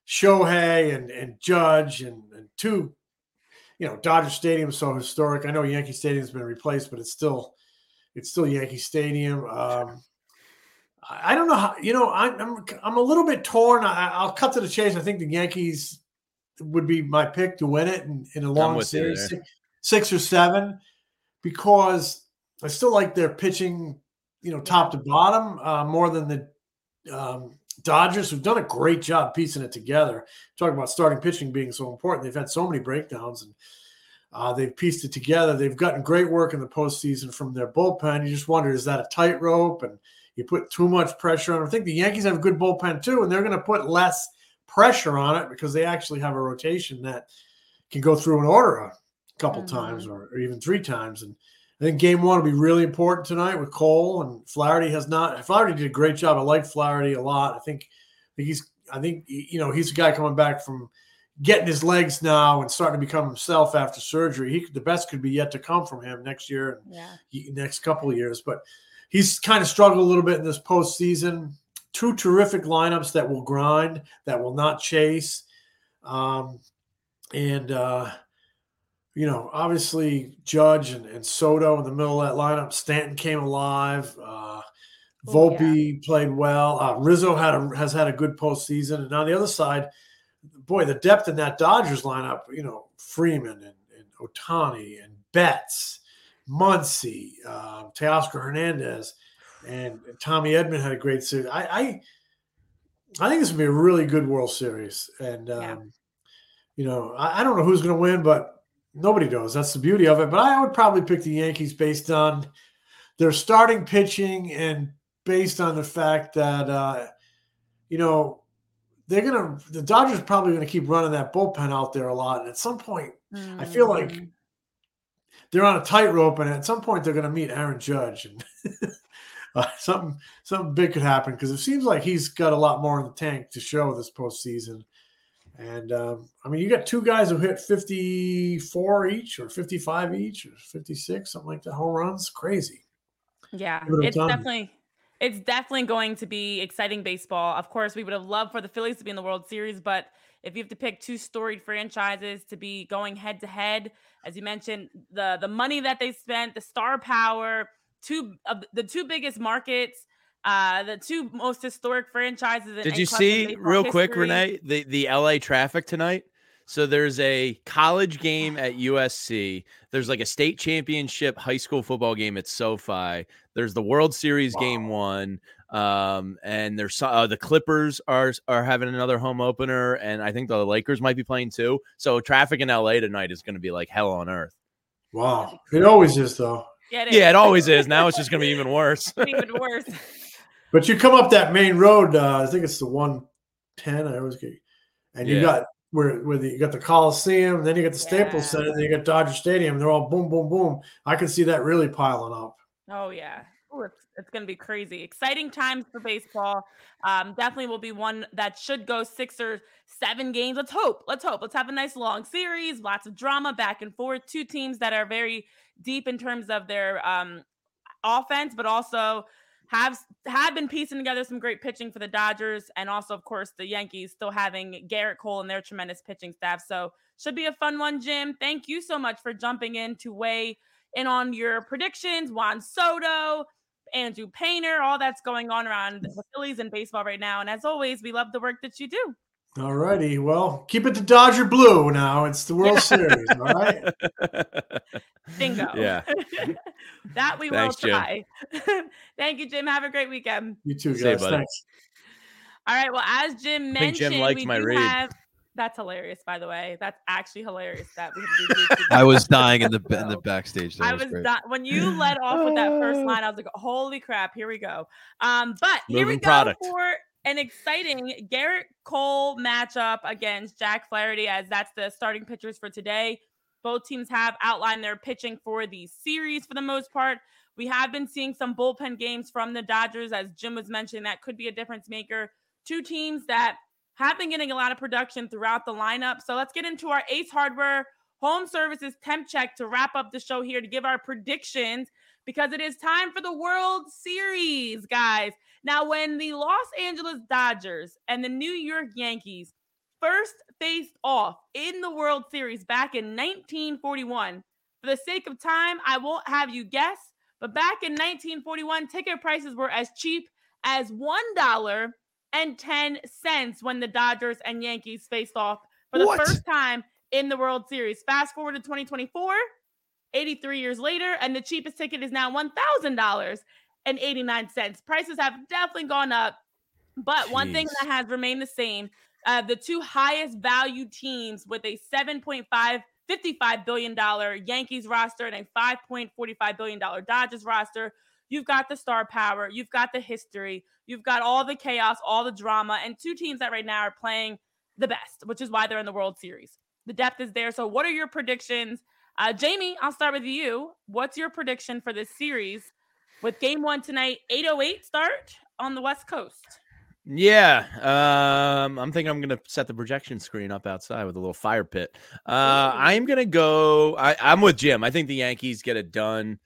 Shohei and and Judge and, and two, you know, Dodger Stadium is so historic. I know Yankee Stadium's been replaced, but it's still it's still Yankee Stadium. Um, I, I don't know how, you know, I, I'm I'm a little bit torn. I, I'll cut to the chase. I think the Yankees would be my pick to win it in, in a long with you series, there. six, six or seven, because I still like their pitching, you know, top to bottom, uh, more than the um, Dodgers, who've done a great job piecing it together. Talking about starting pitching being so important. They've had so many breakdowns, and uh, they've pieced it together. They've gotten great work in the postseason from their bullpen. You just wonder, is that a tightrope? And you put too much pressure on them. I think the Yankees have a good bullpen too, and they're going to put less pressure on it because they actually have a rotation that can go through an order a couple Mm-hmm. times or, or even three times. And I think game one will be really important tonight with Cole, and Flaherty has not. Flaherty did a great job. I like Flaherty a lot. I think, I think he's. I think you know he's a guy coming back from getting his legs now and starting to become himself after surgery. He the best could be yet to come from him next year and Yeah. he- next couple of years. But he's kind of struggled a little bit in this postseason. Two terrific lineups that will grind, that will not chase, um, and. Uh, You know, obviously Judge and, and Soto in the middle of that lineup. Stanton came alive. Uh, Oh, Volpe played well. Uh, Rizzo had a, has had a good postseason. And on the other side, boy, the depth in that Dodgers lineup, you know, Freeman and, and Ohtani and Betts, Muncy, uh, Teoscar Hernandez, and Tommy Edman had a great series. I, I, I think this would be a really good World Series. And, um, Yeah. you know, I, I don't know who's going to win, but nobody knows. That's the beauty of it. But I would probably pick the Yankees based on their starting pitching and based on the fact that, uh, you know, they're going to – the Dodgers are probably going to keep running that bullpen out there a lot. And at some point, I feel like Mhm. they're on a tightrope, and at some point they're going to meet Aaron Judge. And uh, something, something big could happen because it seems like he's got a lot more in the tank to show this postseason. And, um, I mean, you got two guys who hit fifty-four each or fifty-five each or fifty-six, something like that. Home runs. Crazy. Yeah, Give it a it's ton. definitely it's definitely going to be exciting baseball. Of course, we would have loved for the Phillies to be in the World Series, but if you have to pick two storied franchises to be going head to head, as you mentioned, the the money that they spent, the star power, two of the two biggest markets, uh, the two most historic franchises. In, Did in you club see baseball real quick, history. Renee, the, the L A traffic tonight? So there's a college game at U S C. There's like a state championship high school football game at SoFi. There's the World Series Wow. game one. Um, and there's uh, the Clippers are are having another home opener, and I think the Lakers might be playing too. So traffic in L A tonight is going to be like hell on earth. Wow. It always is, though. Yeah, it is. Yeah, it always is. Now it's just going to be even worse. Even worse. But you come up that main road, uh, I think it's the one ten. I always get, and you Yeah. got where where the, you got the Coliseum, then you got the Staples Yeah. Center, then you got Dodger Stadium. They're all boom, boom, boom. I can see that really piling up. Oh yeah. Ooh, it's it's gonna be crazy. Exciting times for baseball. Um, definitely will be one that should go six or seven games. Let's hope. Let's hope. Let's have a nice long series, lots of drama back and forth. Two teams that are very deep in terms of their um offense, but also have have been piecing together some great pitching for the Dodgers, and also, of course, the Yankees still having Garrett Cole and their tremendous pitching staff. So should be a fun one, Jim. Thank you so much for jumping in to weigh in on your predictions. Juan Soto, Andrew Painter, all that's going on around the Phillies and baseball right now. And as always, we love the work that you do. All righty. Well, keep it to Dodger Blue now. It's the World Series. All right. Bingo. Yeah. That we Thanks, will Jim. try. Thank you, Jim. Have a great weekend. You too, See you, guys. buddy. Thanks. All right. Well, as Jim I think Jim mentioned, liked we my do read. have. That's hilarious, by the way. That's actually hilarious. That we have I was dying in the in the backstage. That I was was great. di- when you led off with that first line. I was like, "Holy crap! Here we go." Um, but here we Moving go product. for an exciting Garrett Cole matchup against Jack Flaherty, as that's the starting pitchers for today. Both teams have outlined their pitching for the series for the most part. We have been seeing some bullpen games from the Dodgers, as Jim was mentioning. That could be a difference maker. Two teams that have been getting a lot of production throughout the lineup. So let's get into our Ace Hardware Home Services temp check to wrap up the show here to give our predictions, because it is time for the World Series, guys. Now, when the Los Angeles Dodgers and the New York Yankees first faced off in the World Series back in nineteen forty-one, for the sake of time, I won't have you guess, but back in nineteen forty-one, ticket prices were as cheap as one dollar and ten cents when the Dodgers and Yankees faced off for the What? first time in the World Series. Fast forward to twenty twenty-four, eighty-three years later, and the cheapest ticket is now one thousand dollars and eighty-nine cents. Prices have definitely gone up, but one thing Jeez. that has remained the same, uh, the two highest value teams with a seven point five fifty-five billion dollars Yankees roster and a five point four five billion dollars Dodgers roster. You've got the star power, you've got the history, you've got all the chaos, all the drama, and two teams that right now are playing the best, which is why they're in the World Series. The depth is there. So what are your predictions? Uh, Jamie, I'll start with you. What's your prediction for this series with game one tonight, eight oh eight start on the West Coast? Yeah, um, I'm thinking I'm going to set the projection screen up outside with a little fire pit. Uh, I'm going to go. I, I'm with Jim. I think the Yankees get it done.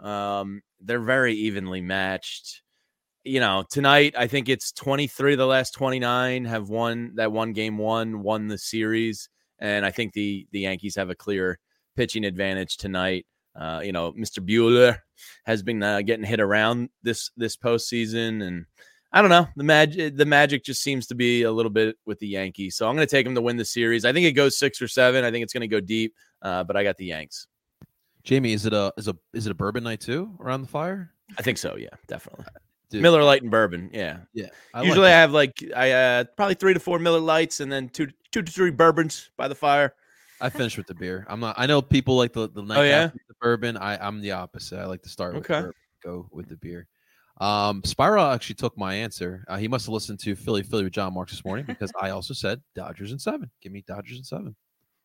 Um, they're very evenly matched. You know, tonight I think it's twenty-three of the last twenty-nine have won that one game one, won the series, and I think the the Yankees have a clear pitching advantage tonight. Uh, you know, Mister Buehler has been uh, getting hit around this this postseason, and I don't know. The magic, the magic just seems to be a little bit with the Yankees. So I'm going to take them to win the series. I think it goes six or seven. I think it's going to go deep, uh, but I got the Yanks. Jamie, is it a is a is it a bourbon night too around the fire? I think so. Yeah, definitely. Dude. Miller Lite and bourbon. Yeah, Yeah. I Usually like I have like I uh, probably three to four Miller Lights and then two two to three bourbons by the fire. I finished with the beer. I'm not. I know people like the the night Oh, yeah? after the bourbon. I I'm the opposite. I like to start with Okay. the bourbon, go with the beer. Um, Spiral actually took my answer. Uh, he must have listened to Philly Philly with John Marks this morning because I also said Dodgers in seven. Give me Dodgers in seven.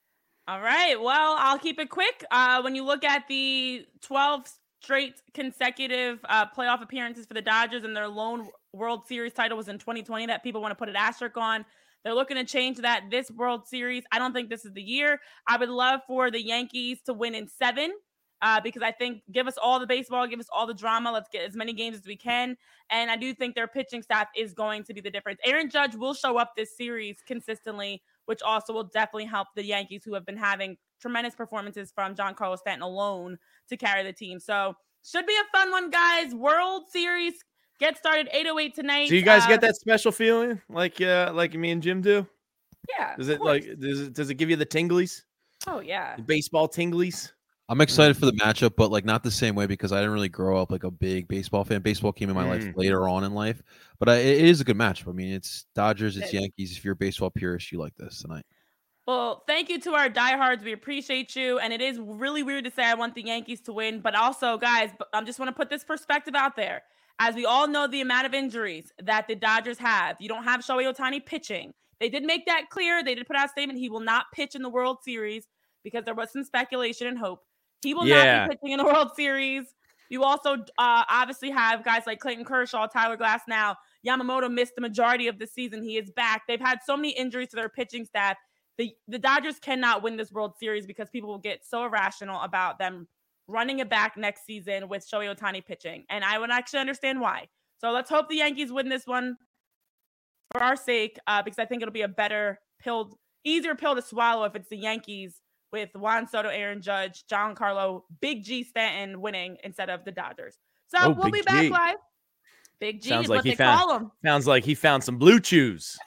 All right. Well, I'll keep it quick. Uh, when you look at the twelve straight consecutive uh, playoff appearances for the Dodgers, and their lone World Series title was in twenty twenty that people want to put an asterisk on. They're looking to change that this World Series. I don't think this is the year. I would love for the Yankees to win in seven uh, because I think give us all the baseball, give us all the drama. Let's get as many games as we can. And I do think their pitching staff is going to be the difference. Aaron Judge will show up this series consistently, which also will definitely help the Yankees, who have been having tremendous performances from Giancarlo Stanton alone to carry the team. So should be a fun one, guys. World Series gets started eight oh eight tonight. Do you guys uh, get that special feeling like uh, like me and Jim do? Yeah. Does of it course. like does it does it give you the tinglies? Oh, yeah. The baseball tinglies? I'm excited for the matchup, but like not the same way because I didn't really grow up like a big baseball fan. Baseball came in my life Mm. later on in life, but I, it is a good matchup. I mean, it's Dodgers, it's It- Yankees. If you're a baseball purist, you like this tonight. Well, thank you to our diehards. We appreciate you. And it is really weird to say I want the Yankees to win. But also, guys, I just want to put this perspective out there. As we all know, the amount of injuries that the Dodgers have. You don't have Shohei Ohtani pitching. They did make that clear. They did put out a statement. He will not pitch in the World Series because there was some speculation and hope. He will Yeah. not be pitching in the World Series. You also uh, obviously have guys like Clayton Kershaw, Tyler Glasnow. Yamamoto missed the majority of the season. He is back. They've had so many injuries to their pitching staff. The, the Dodgers cannot win this World Series because people will get so irrational about them running it back next season with Shohei Ohtani pitching. And I would actually understand why. So let's hope the Yankees win this one for our sake, uh, because I think it'll be a better pill, easier pill to swallow if it's the Yankees with Juan Soto, Aaron Judge, Giancarlo, Big G Stanton winning instead of the Dodgers. So Oh, we'll Big be back G. live. Big G Sounds is like what he they found- call him. Sounds like he found some blue chews.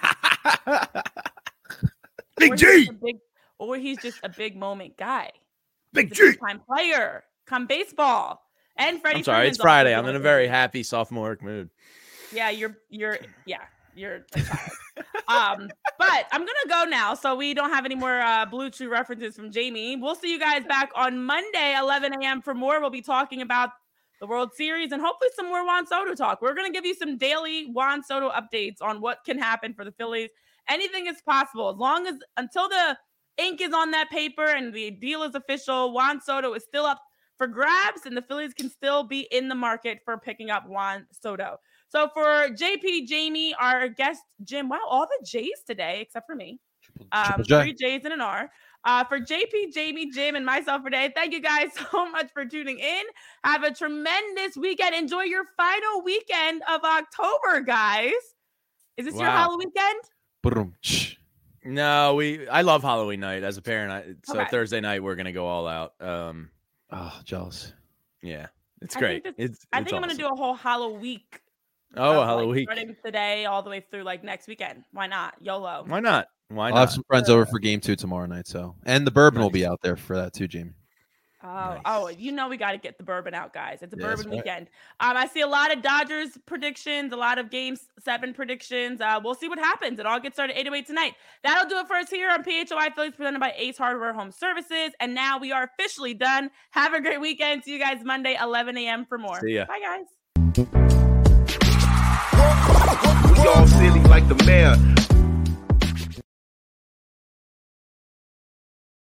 Big Or he's G. just a big, or he's just a big moment guy. Big He's a G. big time player. Come baseball. And Freddie I'm sorry, Freeman's it's Friday. also I'm in a doing very it. happy sophomoric mood. Yeah, you're you're yeah, you're a child. um, but I'm gonna go now, so we don't have any more uh Blue Chew references from Jamie. We'll see you guys back on Monday, eleven a.m. for more. We'll be talking about the World Series and hopefully some more Juan Soto talk. We're gonna give you some daily Juan Soto updates on what can happen for the Phillies. Anything is possible as long as until the ink is on that paper and the deal is official. Juan Soto is still up for grabs, and the Phillies can still be in the market for picking up Juan Soto. So for J P, Jamie, our guest, Jim, wow, all the J's today, except for me. Um, Triple J. three J's and an R. Uh, for J P, Jamie, Jim, and myself today, thank you guys so much for tuning in. Have a tremendous weekend. Enjoy your final weekend of October, guys. Is this your Wow. Halloween weekend? Boom. Shh. No, we. I love Halloween night as a parent. I, so Okay. Thursday night we're gonna go all out. Um, Oh, jealous. yeah, it's I great. think this- It's. I it's think I'm going to do a whole Halloween week. Oh, of, a like, Halloween. starting today all the way through like next weekend. Why not? YOLO. Why not? Why I'll not? have some friends over for game two tomorrow night. So, and the bourbon will be out there for that too, Jamie. Oh, Nice. oh, you know we got to get the bourbon out, guys. It's a Yeah, that's bourbon right. weekend. Um, I see a lot of Dodgers predictions, a lot of Game Seven predictions. Uh, we'll see what happens. It all gets started at eight oh eight tonight. That'll do it for us here on P H O I Phillies, presented by Ace Hardware Home Services. And now we are officially done. Have a great weekend. See you guys Monday, eleven a.m. for more. See ya. Bye, guys. We all silly like the mayor.